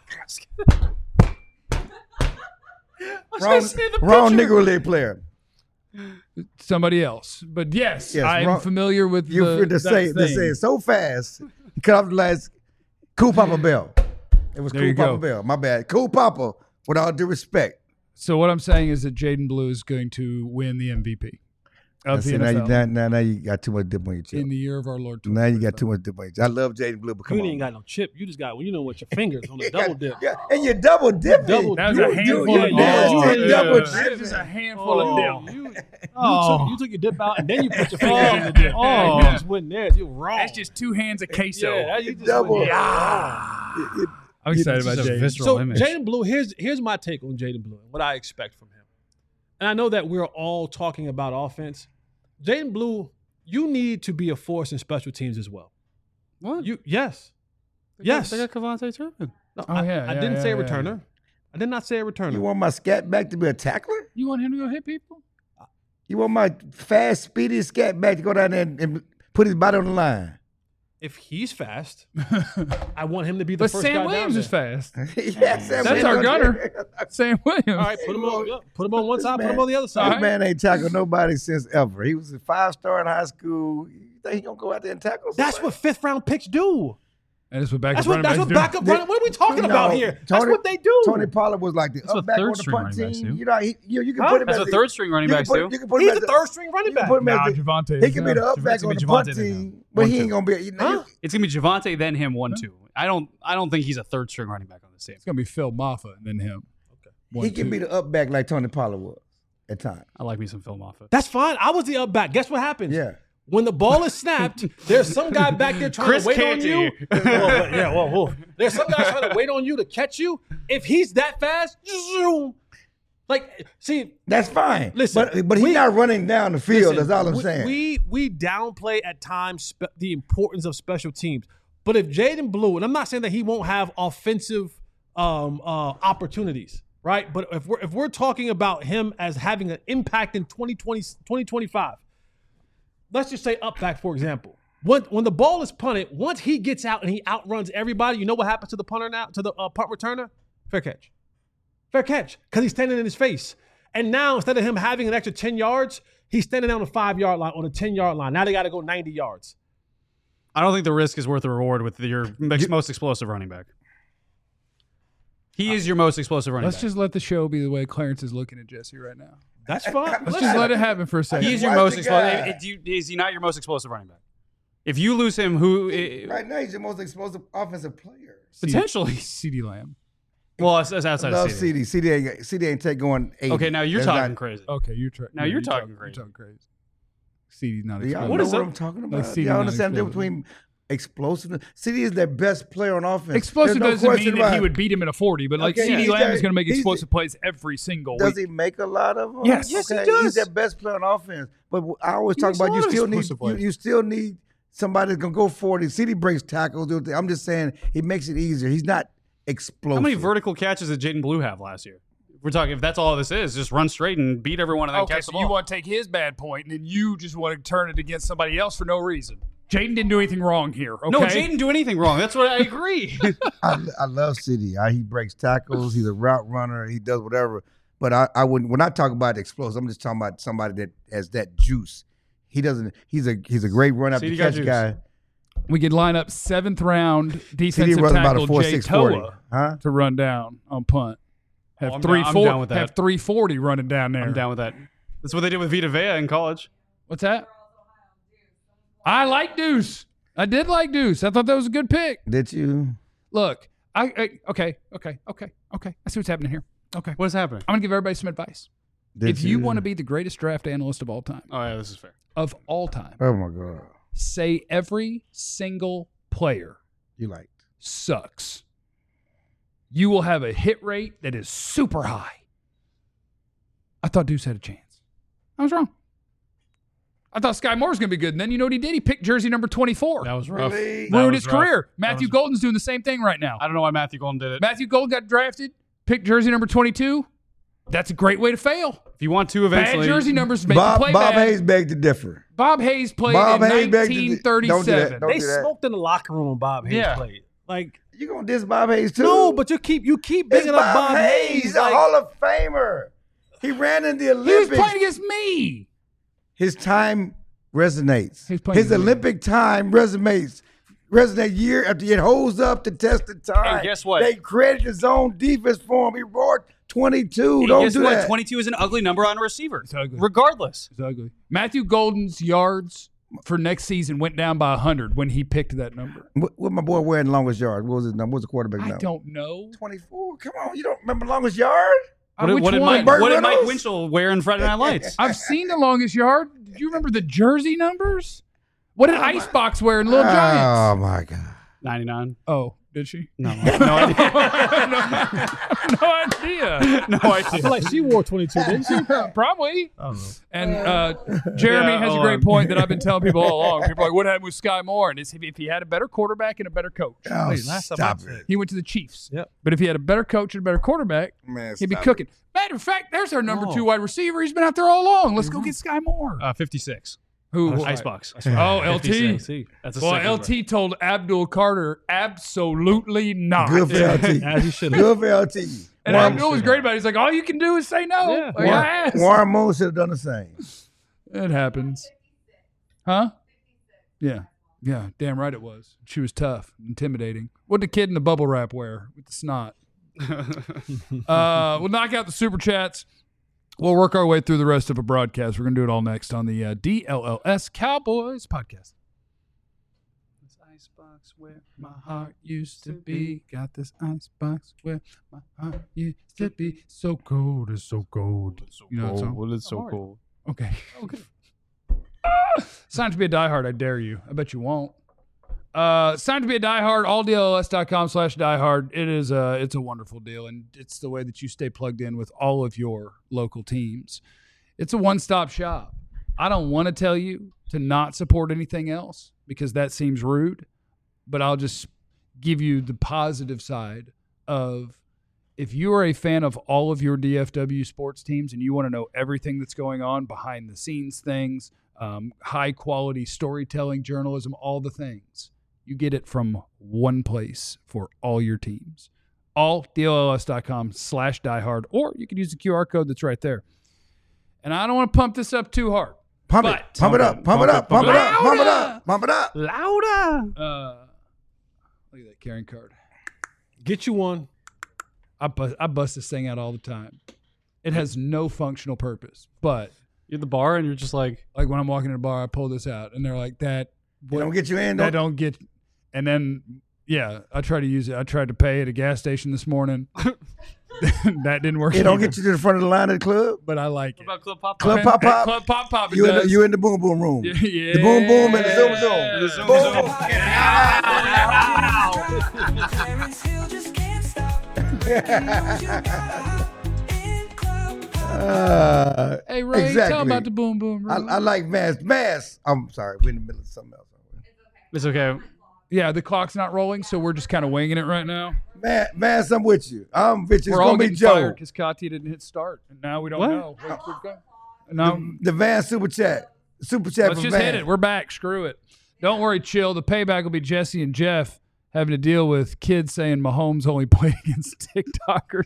[SPEAKER 2] wrong wrong Negro League player.
[SPEAKER 1] Somebody else. But yes,
[SPEAKER 2] Yes,
[SPEAKER 1] I'm
[SPEAKER 2] wrong-
[SPEAKER 1] familiar with
[SPEAKER 2] You
[SPEAKER 1] the,
[SPEAKER 2] feel to
[SPEAKER 1] that
[SPEAKER 2] say to
[SPEAKER 1] thing.
[SPEAKER 2] say it so fast. He cut off the lights. Cool Papa Bell. It was
[SPEAKER 1] There
[SPEAKER 2] Cool
[SPEAKER 1] you
[SPEAKER 2] Papa
[SPEAKER 1] go.
[SPEAKER 2] Bell. My bad. Cool Papa. With all due respect.
[SPEAKER 1] So what I'm saying is that Jaden Blue is going to win the M V P of
[SPEAKER 2] I
[SPEAKER 1] the
[SPEAKER 2] see, now,
[SPEAKER 1] N
[SPEAKER 2] you,
[SPEAKER 1] F L
[SPEAKER 2] now, now, now you got too much dip on your chip.
[SPEAKER 1] in the year of our Lord.
[SPEAKER 2] Now you got too much dip on your chip. I love Jaden Blue, but come
[SPEAKER 4] You
[SPEAKER 2] on.
[SPEAKER 4] ain't got no chip. You just got, you know, with your fingers on the
[SPEAKER 2] Yeah,
[SPEAKER 4] double dip.
[SPEAKER 2] Yeah, and you double dipping.
[SPEAKER 4] Double-
[SPEAKER 1] That was
[SPEAKER 2] You-
[SPEAKER 1] a
[SPEAKER 2] you-
[SPEAKER 1] handful
[SPEAKER 2] you
[SPEAKER 1] of
[SPEAKER 2] nasty
[SPEAKER 1] dip.
[SPEAKER 2] double
[SPEAKER 1] That
[SPEAKER 2] dipping.
[SPEAKER 1] was a handful
[SPEAKER 4] Oh,
[SPEAKER 1] of dip.
[SPEAKER 4] You, you,
[SPEAKER 3] Oh.
[SPEAKER 4] took, you took your dip out and then you put your fingers in the dip.
[SPEAKER 3] Oh.
[SPEAKER 4] You just went there. You're wrong.
[SPEAKER 1] That's just two hands of queso.
[SPEAKER 4] yeah, that- you just
[SPEAKER 2] Double.
[SPEAKER 4] went there.
[SPEAKER 2] It- it-
[SPEAKER 1] I'm excited about
[SPEAKER 3] This is a
[SPEAKER 1] Jaden.
[SPEAKER 3] visceral
[SPEAKER 4] So
[SPEAKER 3] image.
[SPEAKER 4] Jaden Blue, here's here's my take on Jaden Blue and what I expect from him. And I know that we're all talking about offense. Jaden Blue, you need to be a force in special teams as well.
[SPEAKER 3] What?
[SPEAKER 4] You yes.
[SPEAKER 3] They
[SPEAKER 4] Yes.
[SPEAKER 3] got, they got Kevontae Turpin.
[SPEAKER 4] No,
[SPEAKER 1] Oh,
[SPEAKER 4] I,
[SPEAKER 1] yeah,
[SPEAKER 4] I
[SPEAKER 1] yeah,
[SPEAKER 4] didn't
[SPEAKER 1] yeah,
[SPEAKER 4] say a
[SPEAKER 1] yeah,
[SPEAKER 4] returner. I did not say a returner.
[SPEAKER 2] You want my scat back to be a tackler?
[SPEAKER 1] You want him to go hit people?
[SPEAKER 2] You want my fast, speedy scat back to go down there and, and put his body on the line?
[SPEAKER 4] if he's fast, I want him to be the
[SPEAKER 1] But
[SPEAKER 4] first
[SPEAKER 1] Sam
[SPEAKER 4] guy
[SPEAKER 1] Williams
[SPEAKER 4] down
[SPEAKER 1] is
[SPEAKER 4] there.
[SPEAKER 1] fast.
[SPEAKER 2] yes, Sam
[SPEAKER 1] That's
[SPEAKER 2] Williams.
[SPEAKER 1] our gunner. Sam Williams.
[SPEAKER 4] All right, put him on. yeah, Put him on one
[SPEAKER 2] This
[SPEAKER 4] side. Put
[SPEAKER 2] man-
[SPEAKER 4] him on the other
[SPEAKER 2] This
[SPEAKER 4] side.
[SPEAKER 2] man ain't tackled nobody since ever. He was a five star in high school. You think he gonna go out there and tackle?
[SPEAKER 4] That's
[SPEAKER 2] somebody?
[SPEAKER 4] what fifth round picks do.
[SPEAKER 1] And that's what backup
[SPEAKER 4] That's what
[SPEAKER 1] running
[SPEAKER 4] that's
[SPEAKER 1] backs
[SPEAKER 4] what
[SPEAKER 1] do.
[SPEAKER 4] backup running. What are we talking
[SPEAKER 2] No,
[SPEAKER 4] about here? That's
[SPEAKER 2] Tony-
[SPEAKER 4] what they do.
[SPEAKER 2] Tony Pollard was like the
[SPEAKER 3] That's what
[SPEAKER 2] up back on
[SPEAKER 3] third
[SPEAKER 2] the
[SPEAKER 3] string
[SPEAKER 2] punt
[SPEAKER 3] running backs
[SPEAKER 2] team.
[SPEAKER 3] do.
[SPEAKER 2] You know, he, you, you can
[SPEAKER 4] Huh?
[SPEAKER 2] put him
[SPEAKER 3] That's
[SPEAKER 2] as
[SPEAKER 3] what
[SPEAKER 2] a-
[SPEAKER 3] third string running
[SPEAKER 2] you
[SPEAKER 3] backs
[SPEAKER 2] can
[SPEAKER 3] do.
[SPEAKER 2] put, you can put him
[SPEAKER 4] He's
[SPEAKER 2] as
[SPEAKER 4] the
[SPEAKER 2] a-
[SPEAKER 4] third string running
[SPEAKER 2] you can
[SPEAKER 4] back.
[SPEAKER 2] put him
[SPEAKER 1] Nah,
[SPEAKER 2] as a-
[SPEAKER 1] Javante.
[SPEAKER 2] He can be the up back
[SPEAKER 3] It's gonna
[SPEAKER 2] on
[SPEAKER 3] be
[SPEAKER 2] the punt
[SPEAKER 3] Javante then,
[SPEAKER 2] team,
[SPEAKER 3] huh?
[SPEAKER 2] but he
[SPEAKER 3] One,
[SPEAKER 2] ain't
[SPEAKER 3] two.
[SPEAKER 2] gonna be. You know,
[SPEAKER 4] Huh?
[SPEAKER 3] It's gonna be Javante, then him, one, two. I don't, I don't think he's a third string running back on this team.
[SPEAKER 1] It's gonna be Phil Maffa and then him. Okay. One,
[SPEAKER 2] he can
[SPEAKER 1] two.
[SPEAKER 2] be the up back like Tony Pollard was at times.
[SPEAKER 3] I like me some Phil Moffitt.
[SPEAKER 4] That's fine. I was the up back. Guess what happens?
[SPEAKER 2] Yeah.
[SPEAKER 4] When the ball is snapped, there's some guy back there trying
[SPEAKER 3] Chris
[SPEAKER 4] to wait
[SPEAKER 3] Canty.
[SPEAKER 4] on you. Well, but- yeah, whoa, whoa. There's some guy trying to wait on you to catch you. If he's that fast, zoom. Like, see,
[SPEAKER 2] That's fine.
[SPEAKER 4] Listen,
[SPEAKER 2] but but he's
[SPEAKER 4] we-
[SPEAKER 2] not running down the field.
[SPEAKER 4] listen,
[SPEAKER 2] that's all I'm
[SPEAKER 4] we,
[SPEAKER 2] saying.
[SPEAKER 4] We we downplay at times spe- the importance of special teams. But if Jaden Blue, and I'm not saying that he won't have offensive um, uh, opportunities, right? But if we're if we're talking about him as having an impact in twenty twenty, twenty twenty-five, let's just say up back, for example. When, when the ball is punted, once he gets out and he outruns everybody, you know what happens to the punter now, to the uh, punt returner? Fair catch. Fair catch, because he's standing in his face. And now, instead of him having an extra ten yards, he's standing on the five-yard line, on the ten-yard line. Now they got to go ninety yards.
[SPEAKER 3] I don't think the risk is worth the reward with your most explosive running back. He is your most explosive running
[SPEAKER 1] Let's
[SPEAKER 3] back.
[SPEAKER 1] just let the show be the way Clarence is looking at Jesse right now.
[SPEAKER 4] That's fine.
[SPEAKER 1] Let's just let it happen for a second.
[SPEAKER 3] He's your
[SPEAKER 2] Watch
[SPEAKER 3] most
[SPEAKER 2] the
[SPEAKER 3] explosive.
[SPEAKER 2] guy.
[SPEAKER 3] Is, you- is he not your most explosive running back? If you lose him, who eh,
[SPEAKER 2] right now, he's the most explosive offensive player.
[SPEAKER 3] potentially?
[SPEAKER 1] CeeDee Lamb.
[SPEAKER 3] Well, that's, that's
[SPEAKER 2] I
[SPEAKER 3] outside
[SPEAKER 2] love
[SPEAKER 3] of C D.
[SPEAKER 2] C D. C D ain't, C D ain't take going eighty.
[SPEAKER 3] Okay, now you're
[SPEAKER 2] That's
[SPEAKER 3] talking
[SPEAKER 2] not-
[SPEAKER 3] crazy.
[SPEAKER 1] Okay, you're tra-
[SPEAKER 3] Now
[SPEAKER 1] yeah,
[SPEAKER 3] you're talking
[SPEAKER 1] You're
[SPEAKER 3] crazy.
[SPEAKER 1] talking crazy. CeeDee's not
[SPEAKER 2] Do y'all
[SPEAKER 1] explosive.
[SPEAKER 2] know
[SPEAKER 3] What is
[SPEAKER 2] what
[SPEAKER 3] that?
[SPEAKER 2] I'm talking
[SPEAKER 1] Like
[SPEAKER 2] about?
[SPEAKER 1] C D
[SPEAKER 2] y'all
[SPEAKER 1] not
[SPEAKER 2] understand the difference
[SPEAKER 1] explosive.
[SPEAKER 2] between explosiveness? C D is their best player on offense.
[SPEAKER 1] Explosive
[SPEAKER 2] There's no
[SPEAKER 1] doesn't
[SPEAKER 2] question
[SPEAKER 1] mean that
[SPEAKER 2] about
[SPEAKER 1] he
[SPEAKER 2] it.
[SPEAKER 1] would beat him in a forty, but like
[SPEAKER 2] Okay,
[SPEAKER 1] CeeDee
[SPEAKER 2] he's
[SPEAKER 1] Lamb
[SPEAKER 2] that-
[SPEAKER 1] is going to make
[SPEAKER 2] he's-
[SPEAKER 1] explosive plays every single
[SPEAKER 2] Does
[SPEAKER 1] week.
[SPEAKER 2] he make a lot of them?
[SPEAKER 1] Yes. Yes,
[SPEAKER 4] he
[SPEAKER 2] okay.
[SPEAKER 4] does.
[SPEAKER 2] He's their best player on offense. But I always
[SPEAKER 3] He
[SPEAKER 2] talk
[SPEAKER 3] makes a
[SPEAKER 2] about you
[SPEAKER 3] lot of
[SPEAKER 2] still need
[SPEAKER 3] explosive
[SPEAKER 2] you,
[SPEAKER 3] plays.
[SPEAKER 2] you still need somebody that's gonna go forty. C D breaks tackles. do the- I'm just saying he makes it easier. He's not explosive.
[SPEAKER 3] How many vertical catches did Jaden Blue have last year? We're talking, if that's all this is, just run straight and beat everyone and then
[SPEAKER 1] Okay,
[SPEAKER 3] catch
[SPEAKER 1] so
[SPEAKER 3] the
[SPEAKER 1] you
[SPEAKER 3] ball.
[SPEAKER 1] want to take his bad point, and then you just want to turn it against somebody else for no reason. Jaden didn't do anything wrong here. Okay?
[SPEAKER 3] No, Jaden didn't do anything wrong. That's what I agree.
[SPEAKER 2] I, I love C D. I, he breaks tackles. He's a route runner. He does whatever. But I, I wouldn't. When I talk about explosive, I'm just talking about somebody that has that juice. He doesn't. He's a he's a great run after
[SPEAKER 3] C D got
[SPEAKER 2] catch
[SPEAKER 3] juice.
[SPEAKER 2] guy.
[SPEAKER 1] We could line up seventh round
[SPEAKER 2] C D
[SPEAKER 1] defensive
[SPEAKER 2] runs about
[SPEAKER 1] tackle
[SPEAKER 2] a four
[SPEAKER 1] Jay
[SPEAKER 2] six forty.
[SPEAKER 1] Toa
[SPEAKER 2] Huh?
[SPEAKER 1] to run down on punt. Have
[SPEAKER 3] Oh, I'm
[SPEAKER 1] three
[SPEAKER 3] down- I'm
[SPEAKER 1] four,
[SPEAKER 3] down with that.
[SPEAKER 1] have three forty running down there.
[SPEAKER 3] I'm down with that. That's what they did with Vita Vea in college.
[SPEAKER 1] What's that? I like Deuce. I did like Deuce. I thought that was a good pick.
[SPEAKER 2] Did you?
[SPEAKER 1] Look, I, I okay, okay, okay, okay. I see what's happening here. Okay,
[SPEAKER 3] What is happening?
[SPEAKER 1] I'm gonna give everybody some advice.
[SPEAKER 2] Did
[SPEAKER 1] if you want to be the greatest draft analyst of all time,
[SPEAKER 3] Oh, yeah, this is fair.
[SPEAKER 1] of all time,
[SPEAKER 2] Oh my god.
[SPEAKER 1] say every single player
[SPEAKER 2] You like?
[SPEAKER 1] sucks. You will have a hit rate that is super high. I thought Deuce had a chance. I was wrong. I thought Sky Moore was going to be good. And then you know what he did? He picked jersey number twenty-four.
[SPEAKER 3] That was rough.
[SPEAKER 2] Really?
[SPEAKER 3] That
[SPEAKER 1] Ruined
[SPEAKER 3] was
[SPEAKER 1] his
[SPEAKER 3] rough.
[SPEAKER 1] career. Matthew
[SPEAKER 3] was-
[SPEAKER 1] Golden's doing the same thing right now.
[SPEAKER 3] I don't know why Matthew Golden did it.
[SPEAKER 1] Matthew Golden got drafted, picked jersey number twenty-two. That's a great way to fail.
[SPEAKER 3] If you want to eventually.
[SPEAKER 1] Bad jersey numbers make
[SPEAKER 2] Bob
[SPEAKER 1] you play
[SPEAKER 2] Bob
[SPEAKER 1] bad.
[SPEAKER 2] Hayes begged to differ.
[SPEAKER 1] Bob Hayes played
[SPEAKER 2] Bob
[SPEAKER 1] in
[SPEAKER 2] Hayes begged to-
[SPEAKER 1] nineteen
[SPEAKER 2] don't do that.
[SPEAKER 1] thirty-seven.
[SPEAKER 2] Don't
[SPEAKER 4] They
[SPEAKER 2] do that.
[SPEAKER 4] smoked in the locker room when Bob Hayes
[SPEAKER 3] Yeah.
[SPEAKER 4] played. Like,
[SPEAKER 2] You gonna diss Bob Hayes too?
[SPEAKER 4] no, but you keep you keep
[SPEAKER 2] it's
[SPEAKER 4] bringing up
[SPEAKER 2] Bob,
[SPEAKER 4] Bob
[SPEAKER 2] Hayes.
[SPEAKER 4] Hayes.
[SPEAKER 2] He's a
[SPEAKER 4] like-
[SPEAKER 2] Hall of Famer. He ran in the
[SPEAKER 1] He was
[SPEAKER 2] Olympics.
[SPEAKER 1] playing against me.
[SPEAKER 2] His time resonates.
[SPEAKER 1] He's playing
[SPEAKER 2] His
[SPEAKER 1] against me.
[SPEAKER 2] Olympic time resonates. Resonate year after year. It holds up to test the time.
[SPEAKER 3] And guess what?
[SPEAKER 2] They created his own defense for him. He roared twenty-two.
[SPEAKER 3] Hey,
[SPEAKER 2] Don't
[SPEAKER 3] guess
[SPEAKER 2] do
[SPEAKER 3] what?
[SPEAKER 2] that.
[SPEAKER 3] twenty-two is an ugly number on a receiver.
[SPEAKER 1] It's ugly.
[SPEAKER 3] Regardless.
[SPEAKER 1] It's ugly. Matthew Golden's yards for next season went down by one hundred when he picked that number.
[SPEAKER 2] What, what my boy wearing longest yard? What was his number? What was the quarterback
[SPEAKER 1] I
[SPEAKER 2] number?
[SPEAKER 1] don't know.
[SPEAKER 2] twenty-four. Come on, you don't remember longest yard?
[SPEAKER 1] Uh,
[SPEAKER 3] What did,
[SPEAKER 1] which
[SPEAKER 3] what did
[SPEAKER 1] one?
[SPEAKER 3] Mike,
[SPEAKER 2] Burt
[SPEAKER 3] what did Mike
[SPEAKER 2] Reynolds?
[SPEAKER 3] Winchell wear in Friday Night Lights?
[SPEAKER 1] I've seen the longest yard. Do you remember the jersey numbers? What did
[SPEAKER 2] Oh,
[SPEAKER 1] Icebox wear in Little
[SPEAKER 2] Oh
[SPEAKER 1] Giants?
[SPEAKER 2] my God.
[SPEAKER 3] ninety-nine.
[SPEAKER 1] Oh, did she?
[SPEAKER 3] No, no idea.
[SPEAKER 1] no idea.
[SPEAKER 3] No
[SPEAKER 4] I
[SPEAKER 3] idea.
[SPEAKER 4] feel like she wore twenty-two, didn't she?
[SPEAKER 1] Probably.
[SPEAKER 4] I don't know.
[SPEAKER 1] And uh, Jeremy
[SPEAKER 3] Yeah,
[SPEAKER 1] has a
[SPEAKER 3] hold
[SPEAKER 1] great
[SPEAKER 3] on.
[SPEAKER 1] point that I've been telling people all along. People are like, what happened with Sky Moore? And it's if if he had a better quarterback and a better coach.
[SPEAKER 2] Oh,
[SPEAKER 4] Wait, last time
[SPEAKER 2] stop
[SPEAKER 4] I said-
[SPEAKER 2] it.
[SPEAKER 1] He went to the Chiefs.
[SPEAKER 4] Yep.
[SPEAKER 1] But if he had a better coach and a better quarterback,
[SPEAKER 2] Man,
[SPEAKER 1] he'd be
[SPEAKER 2] stop
[SPEAKER 1] cooking. Matter of fact, there's our number
[SPEAKER 4] Oh.
[SPEAKER 1] two wide receiver. He's been out there all along. Let's go get Sky Moore.
[SPEAKER 3] Uh, fifty-six.
[SPEAKER 1] Who?
[SPEAKER 3] Icebox.
[SPEAKER 1] Oh, L T.
[SPEAKER 4] fifty-six.
[SPEAKER 3] That's a
[SPEAKER 1] Well,
[SPEAKER 3] sick
[SPEAKER 1] L
[SPEAKER 3] number.
[SPEAKER 1] T told Abdul Carter, absolutely not.
[SPEAKER 2] Good for L T.
[SPEAKER 4] As you should have.
[SPEAKER 2] Good for L T.
[SPEAKER 1] And
[SPEAKER 2] Warren,
[SPEAKER 1] Abdul was great about it. He's like, all you can do is say no.
[SPEAKER 4] Yeah.
[SPEAKER 1] Like, I
[SPEAKER 2] Warren,
[SPEAKER 1] asked.
[SPEAKER 2] Warren Moon should have done the same.
[SPEAKER 1] It happens. Huh? Yeah. Yeah, damn right it was. She was tough, intimidating. What did the kid in the bubble wrap wear with the snot? uh, we'll knock out the super chats. We'll work our way through the rest of a broadcast. We're going to do it all next on the uh, D L L S Cowboys podcast. This icebox where my heart used to be. Got this icebox where my heart used to be. So cold, it's so cold. You know that song?
[SPEAKER 3] Well, it's so cold.
[SPEAKER 1] Okay. Okay. Sign up to be a diehard. I dare you. I bet you won't. Uh, sign up to be a diehard. all D L L S dot com slash diehard. It is a, it's a wonderful deal, and it's the way that you stay plugged in with all of your local teams. It's a one-stop shop. I don't want to tell you to not support anything else because that seems rude, but I'll just give you the positive side of if you are a fan of all of your D F W sports teams and you want to know everything that's going on behind the scenes things, um, high quality storytelling, journalism, all the things, you get it from one place for all your teams. all D L L S dot com slash diehard, or you can use the Q R code that's right there. And I don't want to pump this up too hard.
[SPEAKER 2] Pump
[SPEAKER 1] but,
[SPEAKER 2] it. Pump it up. Pump it up. Pump it up. Pump it up. Pump it up.
[SPEAKER 3] Louder.
[SPEAKER 1] Uh, look at that carrying card.
[SPEAKER 4] Get you one.
[SPEAKER 1] I bust, I bust this thing out all the time. It has no functional purpose, but
[SPEAKER 3] You're at the bar and you're just like,
[SPEAKER 1] like when I'm walking in a bar, I pull this out, and they're like, "That
[SPEAKER 2] They don't get you in,
[SPEAKER 1] that
[SPEAKER 2] though.
[SPEAKER 1] don't get." And then, yeah, I try to use it. I tried to pay at a gas station this morning. That didn't work.
[SPEAKER 2] It don't
[SPEAKER 1] either,
[SPEAKER 2] get you to the front of the line of the club.
[SPEAKER 1] but I like
[SPEAKER 3] what
[SPEAKER 1] it.
[SPEAKER 3] about Club Pop?
[SPEAKER 2] Club
[SPEAKER 1] Okay.
[SPEAKER 2] Pop Pop.
[SPEAKER 1] Club Pop Pop. it
[SPEAKER 2] You in, the,
[SPEAKER 1] does.
[SPEAKER 2] you in the boom boom room.
[SPEAKER 1] Yeah.
[SPEAKER 2] The boom boom and the zoom zoom.
[SPEAKER 3] The zoom
[SPEAKER 2] Boom. Uh,
[SPEAKER 1] Hey Ray,
[SPEAKER 2] exactly.
[SPEAKER 1] tell about the boom boom.
[SPEAKER 2] I,
[SPEAKER 1] room.
[SPEAKER 2] I like mass. Mass. I'm sorry. We're in the middle of something else.
[SPEAKER 3] It's okay.
[SPEAKER 1] yeah, the clock's not rolling, so we're just kind of winging it right now.
[SPEAKER 2] Man, Mass, I'm with you. I'm with you. It's
[SPEAKER 1] We're all
[SPEAKER 2] gonna be
[SPEAKER 1] getting
[SPEAKER 2] Joe.
[SPEAKER 1] fired because Katia didn't hit start, and now we don't
[SPEAKER 3] What?
[SPEAKER 1] know. Wait, we're go- Now,
[SPEAKER 2] The, the Van super chat. Super chat
[SPEAKER 1] let's
[SPEAKER 2] from
[SPEAKER 1] just
[SPEAKER 2] Van.
[SPEAKER 1] hit it. We're back. Screw it. Don't worry, chill. The payback will be Jesse and Jeff having to deal with kids saying Mahomes only played against TikTokers.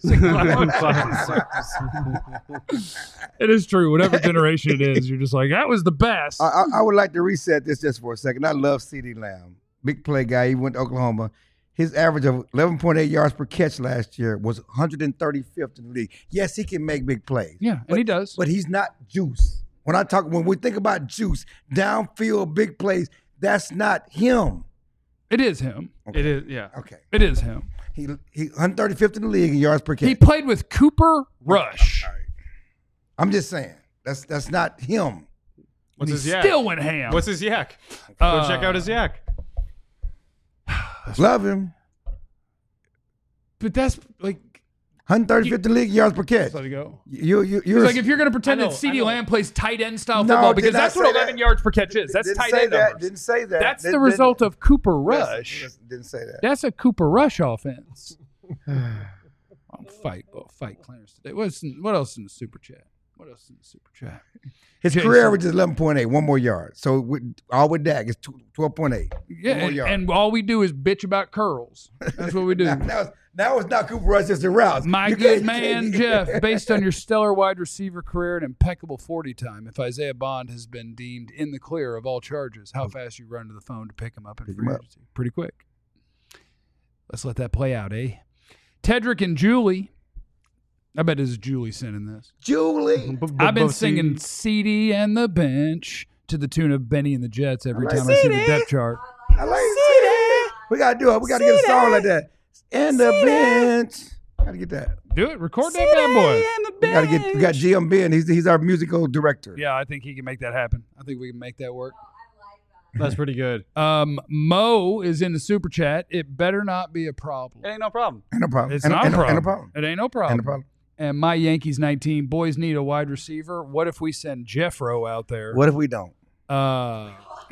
[SPEAKER 1] It is true. Whatever generation it is, you're just like, that was the best.
[SPEAKER 2] I, I, I would like to reset this just for a second. I love CeeDee Lamb. Big play guy. He went to Oklahoma. His average of eleven point eight yards per catch last year was one hundred thirty-fifth in the league. Yes, he can make big plays.
[SPEAKER 1] yeah, and
[SPEAKER 2] but,
[SPEAKER 1] he does.
[SPEAKER 2] But he's not juice. When I talk, when we think about juice, downfield big plays, that's not him.
[SPEAKER 1] It is him.
[SPEAKER 3] It is, yeah.
[SPEAKER 2] Okay.
[SPEAKER 1] It is him.
[SPEAKER 2] He he one hundred thirty-fifth in the league in yards per catch.
[SPEAKER 1] He played with Cooper Rush.
[SPEAKER 2] I'm just saying. That's that's not him.
[SPEAKER 3] What's
[SPEAKER 1] He
[SPEAKER 3] his yak?
[SPEAKER 1] still went ham.
[SPEAKER 3] What's his yak?
[SPEAKER 1] Uh,
[SPEAKER 3] Go check out his yak.
[SPEAKER 2] Love him.
[SPEAKER 1] But that's like,
[SPEAKER 2] one hundred thirty-fifth in the league in yards per catch.
[SPEAKER 1] let it go.
[SPEAKER 2] You you
[SPEAKER 1] It's
[SPEAKER 2] you're
[SPEAKER 1] like if you're going to pretend
[SPEAKER 4] I know,
[SPEAKER 1] that CeeDee
[SPEAKER 4] I know.
[SPEAKER 1] Lamb plays tight end style
[SPEAKER 2] No,
[SPEAKER 1] football,
[SPEAKER 2] did
[SPEAKER 1] because
[SPEAKER 2] not
[SPEAKER 1] that's
[SPEAKER 2] say
[SPEAKER 1] what eleven
[SPEAKER 2] that.
[SPEAKER 1] yards per catch is. That's
[SPEAKER 2] didn't
[SPEAKER 1] tight
[SPEAKER 2] say
[SPEAKER 1] end
[SPEAKER 2] that.
[SPEAKER 1] numbers.
[SPEAKER 2] Didn't say that.
[SPEAKER 1] That's the
[SPEAKER 2] Didn't-
[SPEAKER 1] result of Cooper
[SPEAKER 2] Listen,
[SPEAKER 1] Rush.
[SPEAKER 2] listen, Didn't say that.
[SPEAKER 1] That's a Cooper Rush offense. I'll fight, well, fight Clarence today. What's in, what else in the super chat? What else in the super chat?
[SPEAKER 2] His
[SPEAKER 1] Jason.
[SPEAKER 2] career average is eleven point eight, one more yard. So with, all with Dak is twelve point eight.
[SPEAKER 1] Yeah,
[SPEAKER 2] One more
[SPEAKER 1] and,
[SPEAKER 2] yard.
[SPEAKER 1] and all we do is bitch about curls. That's what we do.
[SPEAKER 2] Now, now, it's, now it's not Cooper Rush, it's the routes.
[SPEAKER 1] My
[SPEAKER 2] You
[SPEAKER 1] good
[SPEAKER 2] can't-
[SPEAKER 1] man, Jeff, based on your stellar wide receiver career and impeccable forty time, if Isaiah Bond has been deemed in the clear of all charges, how fast you run to the phone to pick him up in
[SPEAKER 2] Pick
[SPEAKER 1] free
[SPEAKER 2] him up.
[SPEAKER 1] agency? Pretty quick. Let's let that play out, eh? Tedrick and Julie. I bet this is Julie sending this.
[SPEAKER 2] Julie.
[SPEAKER 1] I've been singing C D and the bench to the tune of Benny and the Jets every
[SPEAKER 2] I like
[SPEAKER 1] time I see the
[SPEAKER 2] C D.
[SPEAKER 1] depth chart.
[SPEAKER 2] I like it. We got to do it. We got to get a song like that. And the bench. Got to get that.
[SPEAKER 1] Do it. Record that bad boy.
[SPEAKER 2] We got to get. We got G M Ben. He's he's our musical director.
[SPEAKER 1] Yeah, I think he can make that happen. I think we can make that work.
[SPEAKER 3] That's pretty good.
[SPEAKER 1] Um, Mo is in the super chat. It better not be a problem.
[SPEAKER 3] It ain't no problem.
[SPEAKER 2] Ain't no problem.
[SPEAKER 1] It's
[SPEAKER 2] ain't,
[SPEAKER 1] not
[SPEAKER 2] ain't,
[SPEAKER 1] a
[SPEAKER 2] no-
[SPEAKER 1] problem.
[SPEAKER 2] Ain't no problem.
[SPEAKER 1] It ain't no problem.
[SPEAKER 2] Ain't no problem.
[SPEAKER 1] And my Yankees nineteen boys need a wide receiver. What if we send Jeffro out there?
[SPEAKER 2] What if we don't?
[SPEAKER 1] Uh,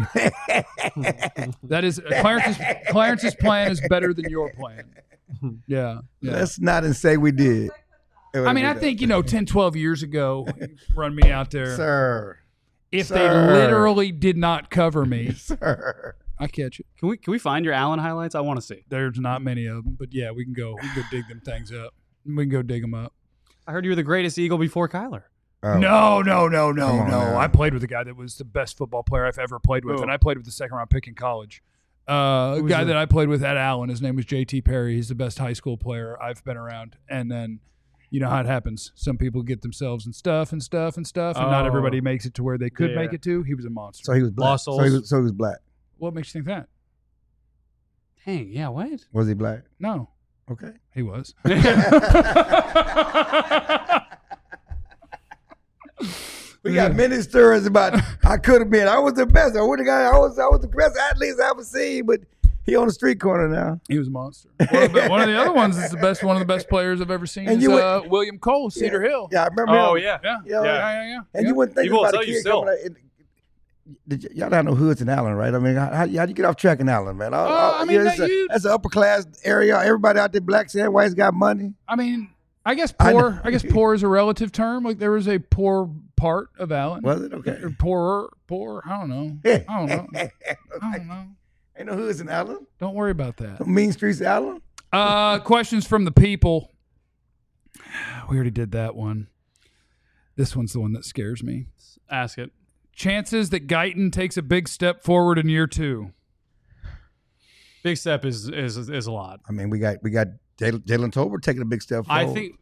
[SPEAKER 1] that is Clarence's. Clarence's plan is better than your plan. Yeah. yeah.
[SPEAKER 2] Let's not and say we did.
[SPEAKER 1] I mean, I think, you know, ten, twelve years ago, run me out there.
[SPEAKER 2] Sir.
[SPEAKER 1] If
[SPEAKER 2] Sir.
[SPEAKER 1] they literally did not cover me,
[SPEAKER 2] Sir.
[SPEAKER 1] I catch it.
[SPEAKER 3] Can we can we find your Allen highlights? I want to see.
[SPEAKER 1] There's not many of them, but yeah, we can go. We can go dig them things up. We can go dig them up.
[SPEAKER 3] I heard you were the greatest Eagle before Kyler.
[SPEAKER 2] Oh.
[SPEAKER 1] No, no, no, no,
[SPEAKER 2] Come on
[SPEAKER 1] no.
[SPEAKER 2] now.
[SPEAKER 1] I played with a guy that was the best football player I've ever played with,
[SPEAKER 3] Who?
[SPEAKER 1] and I played with the second round pick in college. Uh, a
[SPEAKER 3] Who's
[SPEAKER 1] guy
[SPEAKER 3] that?
[SPEAKER 1] that I played with at Allen, his name was J T Perry. He's the best high school player I've been around. And then, you know how it happens. Some people get themselves and stuff and stuff and stuff, and not
[SPEAKER 3] Oh.
[SPEAKER 1] everybody makes it to where they could
[SPEAKER 3] Yeah.
[SPEAKER 1] make it to. He was a monster.
[SPEAKER 2] So he was black.
[SPEAKER 3] Lost
[SPEAKER 2] So he
[SPEAKER 3] souls.
[SPEAKER 2] was, so he was black.
[SPEAKER 1] What makes you think that?
[SPEAKER 3] Dang, yeah, what?
[SPEAKER 2] Was he black?
[SPEAKER 1] No,
[SPEAKER 2] Okay.
[SPEAKER 1] he was.
[SPEAKER 2] We got many stories about I could have been. I was the best. I would have got. I was. I was the best athlete I ever seen. But he on the street corner now.
[SPEAKER 1] He was a monster. One of, the, one of the other ones is the best. One of the best players I've ever seen.
[SPEAKER 2] And
[SPEAKER 1] is
[SPEAKER 2] you would-
[SPEAKER 1] uh, William Cole, Cedar Hill.
[SPEAKER 2] Yeah, I remember.
[SPEAKER 3] Oh
[SPEAKER 2] him.
[SPEAKER 3] yeah.
[SPEAKER 1] Yeah,
[SPEAKER 2] Yeah.
[SPEAKER 1] yeah, yeah, yeah.
[SPEAKER 2] And
[SPEAKER 1] yeah.
[SPEAKER 2] you wouldn't think
[SPEAKER 3] People will
[SPEAKER 2] about a
[SPEAKER 3] tell you
[SPEAKER 2] kid
[SPEAKER 3] still.
[SPEAKER 2] coming out. and- Did y- y'all don't know hoods in Allen, right? I mean, how, how, how'd you get off track in Allen, man? All-
[SPEAKER 1] Uh,
[SPEAKER 2] all-
[SPEAKER 1] I mean,
[SPEAKER 2] yeah, that's,
[SPEAKER 1] that
[SPEAKER 2] a,
[SPEAKER 1] you-
[SPEAKER 2] that's an upper class area. Everybody out there, blacks and whites, got money.
[SPEAKER 1] I mean, I guess
[SPEAKER 2] I
[SPEAKER 1] poor.
[SPEAKER 2] know.
[SPEAKER 1] I, guess poor is a relative term. Like there was a poor part of Allen.
[SPEAKER 2] Was it okay?
[SPEAKER 1] Or poorer, poor. I don't know. I don't know. I don't know.
[SPEAKER 2] Ain't no hoods in Allen.
[SPEAKER 1] Don't worry about that.
[SPEAKER 2] No mean streets in Allen.
[SPEAKER 1] Uh, questions from the people. We already did that one. This one's the one that scares me.
[SPEAKER 3] Ask it.
[SPEAKER 1] Chances that Guyton takes a big step forward in year two.
[SPEAKER 3] Big step is is is a lot.
[SPEAKER 2] I mean, we got we got Jalen Jalen Tolbert taking a big step forward.
[SPEAKER 3] I think.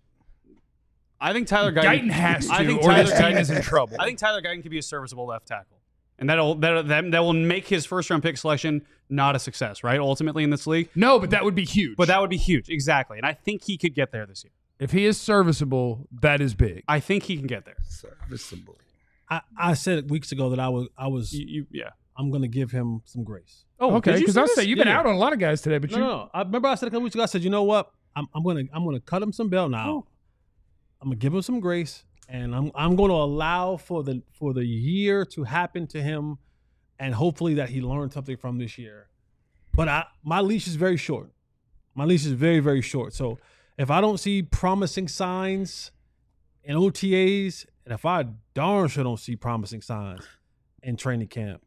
[SPEAKER 3] I think Tyler Guyton,
[SPEAKER 1] Guyton has to,
[SPEAKER 3] I think
[SPEAKER 1] or
[SPEAKER 3] Tyler
[SPEAKER 1] this team
[SPEAKER 3] Guyton-
[SPEAKER 1] is in trouble.
[SPEAKER 3] I think Tyler Guyton could be a serviceable left tackle, and that'll that that, that will make his first round pick selection not a success, right? Ultimately in this league,
[SPEAKER 1] No, but that would be huge.
[SPEAKER 3] but that would be huge, exactly. And I think he could get there this year.
[SPEAKER 1] if he is serviceable, that is big.
[SPEAKER 3] I think he can get there.
[SPEAKER 2] serviceable.
[SPEAKER 4] I, I said weeks ago that I was I was
[SPEAKER 3] You, you, yeah.
[SPEAKER 4] I'm gonna give him some grace.
[SPEAKER 3] Oh,
[SPEAKER 1] okay,
[SPEAKER 3] did you
[SPEAKER 1] because
[SPEAKER 3] say
[SPEAKER 1] I
[SPEAKER 3] this?
[SPEAKER 1] say you've been
[SPEAKER 3] Yeah.
[SPEAKER 1] out on a lot of guys today, but
[SPEAKER 4] No,
[SPEAKER 1] you
[SPEAKER 4] no, no. I remember I said a couple weeks ago. I said, you know what? I'm I'm gonna I'm gonna cut him some bail now. I'm gonna give him some grace, and I'm I'm going to allow for the for the year to happen to him, and hopefully that he learned something from this year. But I my leash is very short. My leash is very very short. So if I don't see promising signs in O T As, and if I darn sure don't see promising signs in training camp,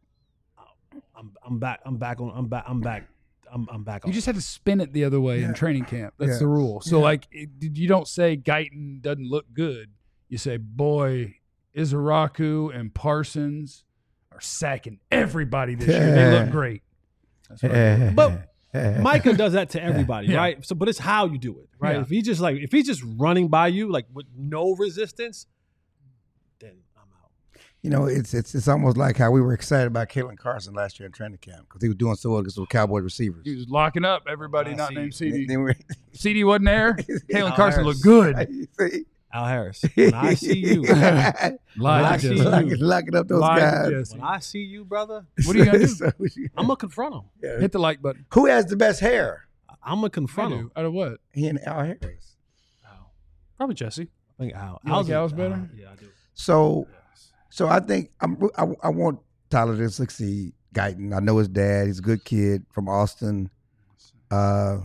[SPEAKER 4] I'm I'm back. I'm back on. I'm back. I'm back. I'm I'm back on.
[SPEAKER 1] You just had to spin it the other way
[SPEAKER 2] Yeah.
[SPEAKER 1] in training camp. That's
[SPEAKER 2] Yeah.
[SPEAKER 1] the rule. So,
[SPEAKER 2] Yeah.
[SPEAKER 1] like, it, you don't say Guyton doesn't look good. You say, boy, Izaraku and Parsons are sacking everybody this year. They look great. That's what I do.
[SPEAKER 4] But Micah does that to everybody,
[SPEAKER 1] Yeah.
[SPEAKER 4] right? So, but it's how you do it, right?
[SPEAKER 1] Yeah.
[SPEAKER 4] If he just like if he's just running by you like with no resistance, then I'm out.
[SPEAKER 2] You know, it's it's it's almost like how we were excited about Kalen Carson last year in training camp because he was doing so well against those Cowboy receivers.
[SPEAKER 1] He was locking up everybody
[SPEAKER 4] I
[SPEAKER 1] not
[SPEAKER 4] see.
[SPEAKER 1] named C D.
[SPEAKER 2] Then we-
[SPEAKER 1] C D wasn't there. Kalen
[SPEAKER 4] Al
[SPEAKER 1] Carson
[SPEAKER 4] Harris.
[SPEAKER 1] looked good.
[SPEAKER 2] You see?
[SPEAKER 4] Al Harris, when I see you,
[SPEAKER 1] Lied
[SPEAKER 4] I
[SPEAKER 1] to
[SPEAKER 4] see
[SPEAKER 1] Jesse.
[SPEAKER 4] you.
[SPEAKER 2] locking, locking up those
[SPEAKER 1] Lied to
[SPEAKER 2] guys.
[SPEAKER 1] Jesse.
[SPEAKER 4] when I see you, brother,
[SPEAKER 1] What are you gonna do?
[SPEAKER 2] So,
[SPEAKER 4] I'm gonna confront him.
[SPEAKER 2] yeah.
[SPEAKER 1] Hit the like button.
[SPEAKER 2] Who has the best hair?
[SPEAKER 4] I'm gonna
[SPEAKER 1] I
[SPEAKER 4] confront
[SPEAKER 1] do.
[SPEAKER 4] him.
[SPEAKER 1] Out of what?
[SPEAKER 2] He and Al Harris.
[SPEAKER 3] Probably Jesse.
[SPEAKER 4] I think Al.
[SPEAKER 1] You like
[SPEAKER 4] Al's a-
[SPEAKER 1] Al's better?
[SPEAKER 4] uh, yeah, I do.
[SPEAKER 2] So, so I think I'm, I, I want Tyler to succeed. Guyton, I know his dad. He's a good kid from Austin. Uh,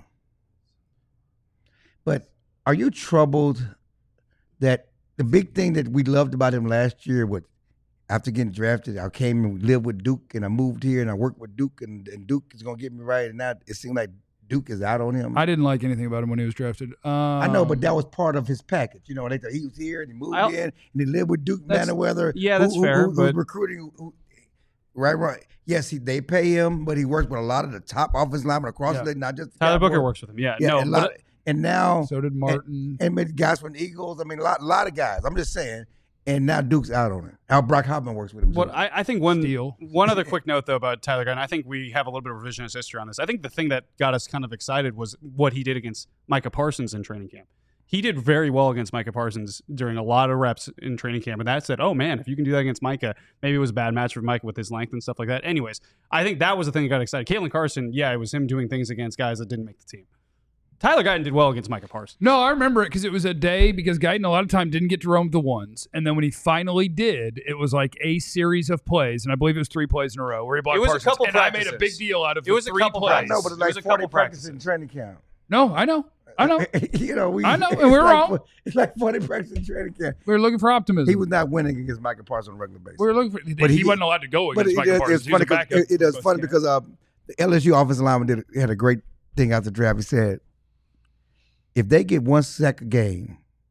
[SPEAKER 2] but are you troubled that the big thing that we loved about him last year was after getting drafted, I came and lived with Duke and I moved here and I worked with Duke and, and Duke is going to get me right. And now it seems like Duke is out on him.
[SPEAKER 1] I didn't like anything about him when he was drafted. Um,
[SPEAKER 2] I know, but that was part of his package. You know, they thought he was here and he moved
[SPEAKER 3] I'll-
[SPEAKER 2] in and he lived with Duke
[SPEAKER 3] That's-
[SPEAKER 2] Manyweather.
[SPEAKER 3] yeah,
[SPEAKER 2] who-
[SPEAKER 3] that's
[SPEAKER 2] who,
[SPEAKER 3] fair,
[SPEAKER 2] Who, who's
[SPEAKER 3] but-
[SPEAKER 2] recruiting, who, right, right. Yes, he, they pay him, but he works with a lot of the top offensive linemen across
[SPEAKER 1] Yeah.
[SPEAKER 2] the league, not just the
[SPEAKER 3] Tyler
[SPEAKER 2] Cowboys.
[SPEAKER 3] Booker works with him. Yeah.
[SPEAKER 2] Yeah,
[SPEAKER 3] no,
[SPEAKER 2] and, a lot,
[SPEAKER 3] but
[SPEAKER 2] and now
[SPEAKER 1] so did Martin.
[SPEAKER 2] and maybe guys from the Eagles. I mean, a lot, a lot of guys. I'm just saying. And now Duke's out on it. Al Brock Hoffman works with him.
[SPEAKER 3] what
[SPEAKER 2] too.
[SPEAKER 3] I, I think one
[SPEAKER 1] Steal.
[SPEAKER 3] one other quick note though about Tyler Guyton, I think we have a little bit of revisionist history on this. I think the thing that got us kind of excited was what he did against Micah Parsons in training camp. He did very well against Micah Parsons during a lot of reps in training camp, and that said, oh man, if you can do that against Micah, maybe it was a bad match for Micah with his length and stuff like that. Anyways, I think that was the thing that got excited. Kalen Carson, yeah, it was him doing things against guys that didn't make the team. Tyler Guyton did well against Micah Parsons.
[SPEAKER 1] No, I remember it because it was a day because Guyton a lot of time didn't get to roam the ones, and then when he finally did, it was like a series of plays, and I believe it was three plays in a row where he blocked
[SPEAKER 3] It was a
[SPEAKER 1] Parsons,
[SPEAKER 3] couple
[SPEAKER 1] and I made a
[SPEAKER 3] practices.
[SPEAKER 1] big deal out of
[SPEAKER 3] It was
[SPEAKER 1] the
[SPEAKER 3] a
[SPEAKER 1] three
[SPEAKER 3] couple
[SPEAKER 1] plays.
[SPEAKER 2] I know, but it's
[SPEAKER 3] It was
[SPEAKER 2] like
[SPEAKER 3] a couple
[SPEAKER 2] forty practices
[SPEAKER 3] practices.
[SPEAKER 2] in training camp.
[SPEAKER 1] No, I know, I know.
[SPEAKER 2] you know, we.
[SPEAKER 1] I know, and
[SPEAKER 2] it's
[SPEAKER 1] we're
[SPEAKER 2] like,
[SPEAKER 1] wrong.
[SPEAKER 2] It's like forty practices in training camp.
[SPEAKER 1] We were looking for optimism.
[SPEAKER 2] He was not winning against Micah Parsons on a regular basis.
[SPEAKER 1] we were looking for.
[SPEAKER 2] But
[SPEAKER 1] he,
[SPEAKER 2] he-
[SPEAKER 1] wasn't allowed to go
[SPEAKER 2] But
[SPEAKER 1] against
[SPEAKER 2] it,
[SPEAKER 1] Michael
[SPEAKER 2] it,
[SPEAKER 1] Parsons.
[SPEAKER 2] it's
[SPEAKER 1] He was
[SPEAKER 2] funny
[SPEAKER 1] a
[SPEAKER 2] because
[SPEAKER 1] backup
[SPEAKER 2] it, it is
[SPEAKER 1] for
[SPEAKER 2] funny
[SPEAKER 1] both
[SPEAKER 2] because uh, the L S U offensive lineman did had a great thing after the draft. He said, if they get one sack a game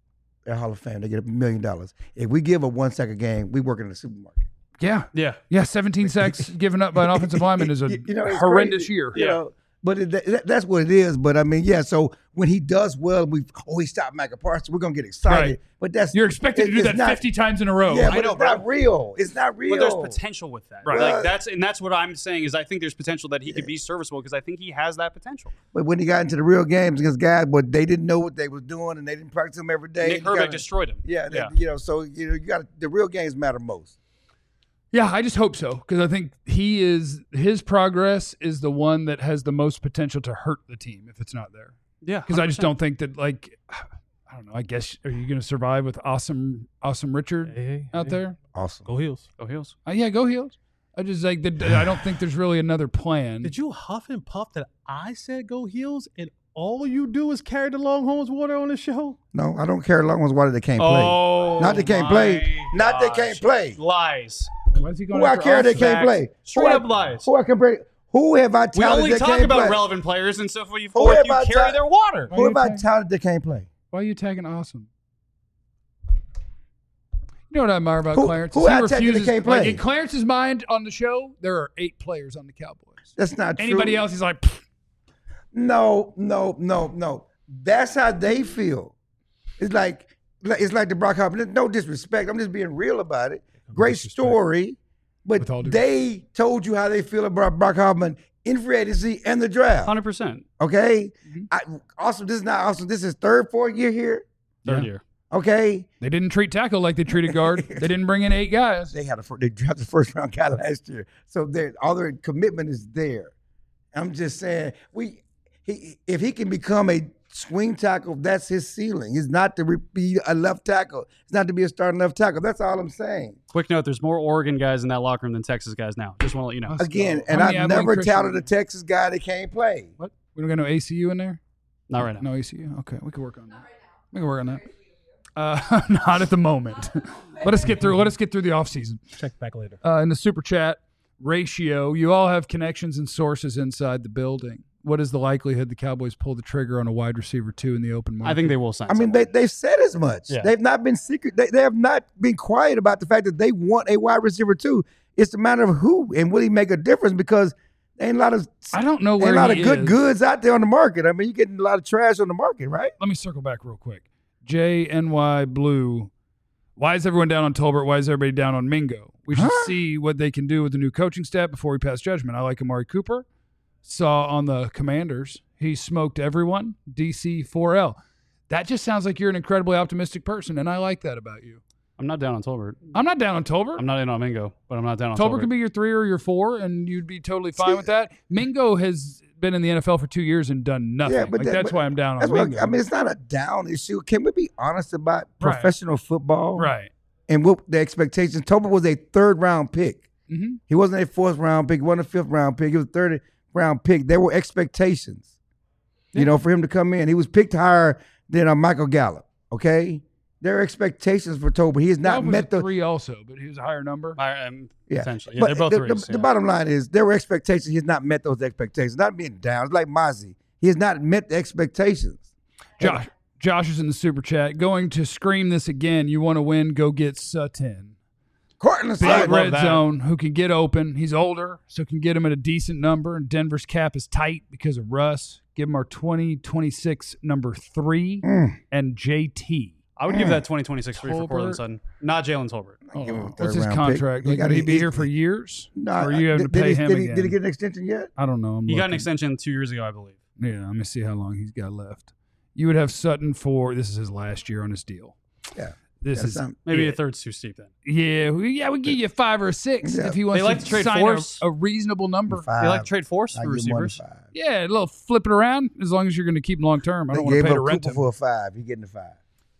[SPEAKER 2] they're Hall of Fame. They get a million dollars. If we give a one sack a game, we work in the supermarket.
[SPEAKER 1] Yeah.
[SPEAKER 3] Yeah.
[SPEAKER 1] Yeah, seventeen sacks given up by an offensive lineman is a
[SPEAKER 2] You know, it's
[SPEAKER 1] horrendous
[SPEAKER 2] crazy.
[SPEAKER 1] year.
[SPEAKER 2] You know, but it, that, that's what it is. But I mean, yeah. So when he does well, we oh he stopped Micah Parsons. We're gonna get excited.
[SPEAKER 1] Right.
[SPEAKER 2] But that's
[SPEAKER 1] You're expected to
[SPEAKER 2] it-
[SPEAKER 1] do
[SPEAKER 2] it's
[SPEAKER 1] that
[SPEAKER 2] not-
[SPEAKER 1] fifty times in a row.
[SPEAKER 2] Yeah,
[SPEAKER 3] I
[SPEAKER 2] but
[SPEAKER 3] know,
[SPEAKER 2] it's not
[SPEAKER 3] bro.
[SPEAKER 2] real. It's not real.
[SPEAKER 3] But there's potential with that.
[SPEAKER 1] Right.
[SPEAKER 3] Like that's and that's what I'm saying is I think there's potential that he could be serviceable because I think he has that potential.
[SPEAKER 2] But when he got into the real games against guys, but they didn't know what they was doing and they didn't practice them every day.
[SPEAKER 3] Nick
[SPEAKER 2] You
[SPEAKER 3] Herbig
[SPEAKER 2] gotta-
[SPEAKER 3] destroyed him.
[SPEAKER 2] Yeah, they-
[SPEAKER 3] Yeah.
[SPEAKER 2] you know. So you know, you got the real games matter most.
[SPEAKER 1] Yeah, I just hope so because I think he is his progress is the one that has the most potential to hurt the team if it's not there.
[SPEAKER 3] Yeah.
[SPEAKER 1] Because I just don't think that like I don't know. I guess are you going to survive with awesome awesome Richard
[SPEAKER 4] Hey, hey,
[SPEAKER 1] out
[SPEAKER 4] hey.
[SPEAKER 1] there?
[SPEAKER 2] Awesome.
[SPEAKER 4] Go Heels.
[SPEAKER 3] Go Heels.
[SPEAKER 1] Uh, yeah, go Heels. I just like the, I don't think there's really another plan.
[SPEAKER 4] Did you huff and puff that I said go Heels and all you do is carry the Longhorns water on the show?
[SPEAKER 2] No, I don't care. Long ones water they can't play.
[SPEAKER 3] Oh,
[SPEAKER 2] Not they can't
[SPEAKER 3] my
[SPEAKER 2] play. Not they
[SPEAKER 3] gosh.
[SPEAKER 2] can't play.
[SPEAKER 3] Lies.
[SPEAKER 1] Why is he going
[SPEAKER 2] Who I
[SPEAKER 1] after
[SPEAKER 2] care they
[SPEAKER 1] us?
[SPEAKER 2] can't
[SPEAKER 3] Facts.
[SPEAKER 2] play.
[SPEAKER 3] Straight
[SPEAKER 2] Who I-
[SPEAKER 3] up lies.
[SPEAKER 2] Who I can play? Who have I
[SPEAKER 3] We
[SPEAKER 2] touted
[SPEAKER 3] only
[SPEAKER 2] that
[SPEAKER 3] talk
[SPEAKER 2] can't
[SPEAKER 3] about
[SPEAKER 2] play?
[SPEAKER 3] relevant players and so forth. You,
[SPEAKER 2] Who
[SPEAKER 3] forth,
[SPEAKER 2] have
[SPEAKER 3] you
[SPEAKER 2] I
[SPEAKER 3] carry
[SPEAKER 2] ta-
[SPEAKER 3] their water.
[SPEAKER 2] Who have I
[SPEAKER 1] Okay.
[SPEAKER 2] touted that can't play?
[SPEAKER 1] Why are you tagging awesome? You know what I admire about
[SPEAKER 2] Who-
[SPEAKER 1] Clarence?
[SPEAKER 2] who
[SPEAKER 1] is he
[SPEAKER 2] I technically
[SPEAKER 1] refuses.
[SPEAKER 2] can't
[SPEAKER 1] Like
[SPEAKER 2] play?
[SPEAKER 1] in Clarence's mind on the show, there are eight players on the Cowboys.
[SPEAKER 2] That's not true.
[SPEAKER 1] Anybody else? He's like, "Pfft."
[SPEAKER 2] No, no, no, no. That's how they feel. It's like it's like the Brock Hoffman. No disrespect. I'm just being real about it. Great
[SPEAKER 4] disrespect.
[SPEAKER 2] story, but
[SPEAKER 1] With all due
[SPEAKER 2] they told you how they feel about Brock Hoffman in free agency and the draft.
[SPEAKER 3] Hundred percent.
[SPEAKER 2] Okay.
[SPEAKER 1] Mm-hmm.
[SPEAKER 2] I, awesome. This is not awesome. This is third, fourth year here.
[SPEAKER 3] Third
[SPEAKER 1] Yeah.
[SPEAKER 3] year.
[SPEAKER 2] Okay.
[SPEAKER 1] They didn't treat tackle like they treated guard. They didn't bring in eight guys.
[SPEAKER 2] They had a fir- they drafted the first round guy last year, so their all their commitment is there. I'm just saying, we he if he can become a swing tackle, that's his ceiling. He's not to re- be a left tackle. It's not to be a starting left tackle. That's all I'm saying.
[SPEAKER 3] Quick note: there's more Oregon guys in that locker room than Texas guys now. Just want to let you know.
[SPEAKER 1] Let's
[SPEAKER 2] Again,
[SPEAKER 1] go.
[SPEAKER 2] and
[SPEAKER 1] How many
[SPEAKER 2] I've
[SPEAKER 1] Abilene
[SPEAKER 2] never
[SPEAKER 1] Christian-
[SPEAKER 2] touted a Texas guy that can't play.
[SPEAKER 1] What? We don't got no A C U in there?
[SPEAKER 3] Not right now.
[SPEAKER 1] No A C U? Okay, we can work on that. We can work on that. Uh, not at the moment. Let us get through. Let us get through the offseason.
[SPEAKER 4] Check back later.
[SPEAKER 1] Uh, in the super chat ratio, you all have connections and sources inside the building. What is the likelihood the Cowboys pull the trigger on a wide receiver two in the open market?
[SPEAKER 3] I think they will sign.
[SPEAKER 2] I mean,
[SPEAKER 3] someone.
[SPEAKER 2] they, they've said as much.
[SPEAKER 3] Yeah.
[SPEAKER 2] They've not been secret. They, they have not been quiet about the fact that they want a wide receiver too. It's a matter of who and will he make a difference because there ain't a lot of
[SPEAKER 1] I don't know
[SPEAKER 2] ain't
[SPEAKER 1] where
[SPEAKER 2] a lot
[SPEAKER 1] he
[SPEAKER 2] of good
[SPEAKER 1] is.
[SPEAKER 2] goods out there on the market. I mean, you're getting a lot of trash on the market, right?
[SPEAKER 1] Let me circle back real quick. J N Y Blue. Why is everyone down on Tolbert? Why is everybody down on Mingo? We should
[SPEAKER 2] Huh?
[SPEAKER 1] see what they can do with the new coaching staff before we pass judgment. I like Amari Cooper. Saw on the Commanders, he smoked everyone. D C four L. That just sounds like you're an incredibly optimistic person, and I like that about you.
[SPEAKER 3] I'm not down on Tolbert.
[SPEAKER 1] I'm not down on Tolbert.
[SPEAKER 3] I'm not in on Mingo, but I'm not down on
[SPEAKER 1] Tolbert
[SPEAKER 3] Tolbert.
[SPEAKER 1] could be your three or your four, and you'd be totally fine with that. Mingo has been in the N F L for two years and done nothing.
[SPEAKER 2] Yeah, but
[SPEAKER 1] like,
[SPEAKER 2] that-
[SPEAKER 1] that's
[SPEAKER 2] but
[SPEAKER 1] why I'm down
[SPEAKER 2] That's
[SPEAKER 1] on
[SPEAKER 2] what
[SPEAKER 1] Mingo.
[SPEAKER 2] I mean. It's not a down issue. Can we be honest about
[SPEAKER 1] Right.
[SPEAKER 2] professional football?
[SPEAKER 1] right.
[SPEAKER 2] And what the expectations? Tolbert was a third round pick.
[SPEAKER 1] Mm-hmm.
[SPEAKER 2] He wasn't a fourth round pick. He wasn't a fifth round pick. He was a third round pick. There were expectations, you know, for him to come in. He was picked higher than uh, Michael Gallup. Okay, there are expectations for Tolbert. He has not
[SPEAKER 1] was
[SPEAKER 2] met
[SPEAKER 1] a
[SPEAKER 2] the
[SPEAKER 1] three also, but he was a higher number.
[SPEAKER 3] I, um,
[SPEAKER 2] Yeah.
[SPEAKER 3] Potentially. Yeah,
[SPEAKER 2] But
[SPEAKER 3] they're both
[SPEAKER 2] the,
[SPEAKER 3] threes.
[SPEAKER 2] the,
[SPEAKER 3] yeah.
[SPEAKER 2] the bottom line is there were expectations. He has not met those expectations. Not being down. It's like Mozzie. He has not met the expectations.
[SPEAKER 1] Josh, Josh is in the super chat. Going to scream this again. You want to win? Go get Sutton.
[SPEAKER 2] Cortland
[SPEAKER 1] Big
[SPEAKER 2] Sutton.
[SPEAKER 3] love
[SPEAKER 1] red
[SPEAKER 3] that.
[SPEAKER 1] zone who can get open. He's older, so can get him at a decent number. And Denver's cap is tight because of Russ. Give him our twenty twenty-six number three
[SPEAKER 2] Mm.
[SPEAKER 1] and J T.
[SPEAKER 3] I would give that twenty twenty-six free for
[SPEAKER 1] Tolbert.
[SPEAKER 3] Cortland Sutton. Not Jalen Tolbert.
[SPEAKER 1] Oh,
[SPEAKER 2] Give him a
[SPEAKER 1] what's
[SPEAKER 2] third
[SPEAKER 1] his
[SPEAKER 2] round
[SPEAKER 1] contract?
[SPEAKER 2] pick. He
[SPEAKER 1] Like,
[SPEAKER 2] got
[SPEAKER 1] would he
[SPEAKER 2] a-
[SPEAKER 1] be
[SPEAKER 2] he-
[SPEAKER 1] here for years?
[SPEAKER 2] No,
[SPEAKER 1] or are you having
[SPEAKER 2] did,
[SPEAKER 1] to pay
[SPEAKER 2] did he,
[SPEAKER 1] him
[SPEAKER 2] did he,
[SPEAKER 1] again?
[SPEAKER 2] did he get an extension yet?
[SPEAKER 1] I don't know. I'm
[SPEAKER 3] He got an
[SPEAKER 1] looking.
[SPEAKER 3] extension two years ago, I believe.
[SPEAKER 1] Yeah, let me see how long he's got left. You would have Sutton for this is his last year on his deal.
[SPEAKER 2] Yeah.
[SPEAKER 1] This
[SPEAKER 2] That's
[SPEAKER 1] is
[SPEAKER 2] not-
[SPEAKER 3] Maybe
[SPEAKER 1] it.
[SPEAKER 3] a third's too steep then.
[SPEAKER 1] Yeah, we, yeah, we give you five or a six
[SPEAKER 2] Yeah.
[SPEAKER 1] if he wants
[SPEAKER 3] They like
[SPEAKER 1] to,
[SPEAKER 3] to trade
[SPEAKER 1] sign a,
[SPEAKER 3] Force.
[SPEAKER 1] a reasonable number.
[SPEAKER 2] Five.
[SPEAKER 3] They like to trade force
[SPEAKER 2] I
[SPEAKER 3] for
[SPEAKER 2] give him one to
[SPEAKER 3] receivers.
[SPEAKER 2] five.
[SPEAKER 1] Yeah, a little flip it around as long as you're going to keep him long term. I
[SPEAKER 2] They
[SPEAKER 1] don't want to
[SPEAKER 2] gave
[SPEAKER 1] pay to
[SPEAKER 2] up
[SPEAKER 1] rent
[SPEAKER 2] Cooper
[SPEAKER 1] him.
[SPEAKER 2] for a five. He getting a five.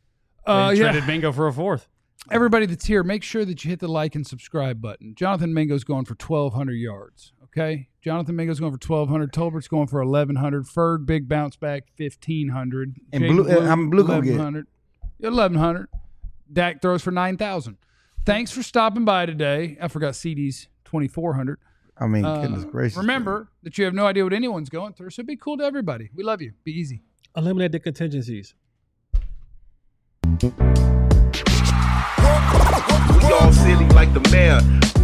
[SPEAKER 1] Uh,
[SPEAKER 3] they
[SPEAKER 1] yeah.
[SPEAKER 3] traded Mingo for a fourth.
[SPEAKER 1] Everybody that's here, make sure that you hit the like and subscribe button. Jonathan Mingo's going for twelve hundred yards. Okay, Jonathan Mingo's going for twelve hundred. Tolbert's going for eleven hundred. Ferg big bounce back fifteen hundred.
[SPEAKER 2] And Blue- uh, I'm Blue gonna get-
[SPEAKER 1] eleven hundred. eleven hundred. Dak throws for nine thousand. Thanks for stopping by today. I forgot C D's twenty-four hundred.
[SPEAKER 2] I mean,
[SPEAKER 1] Uh,
[SPEAKER 2] goodness gracious.
[SPEAKER 1] remember that you have no idea what anyone's going through, so be cool to everybody. We love you. Be easy.
[SPEAKER 4] Eliminate the contingencies.
[SPEAKER 6] We all silly like the mayor.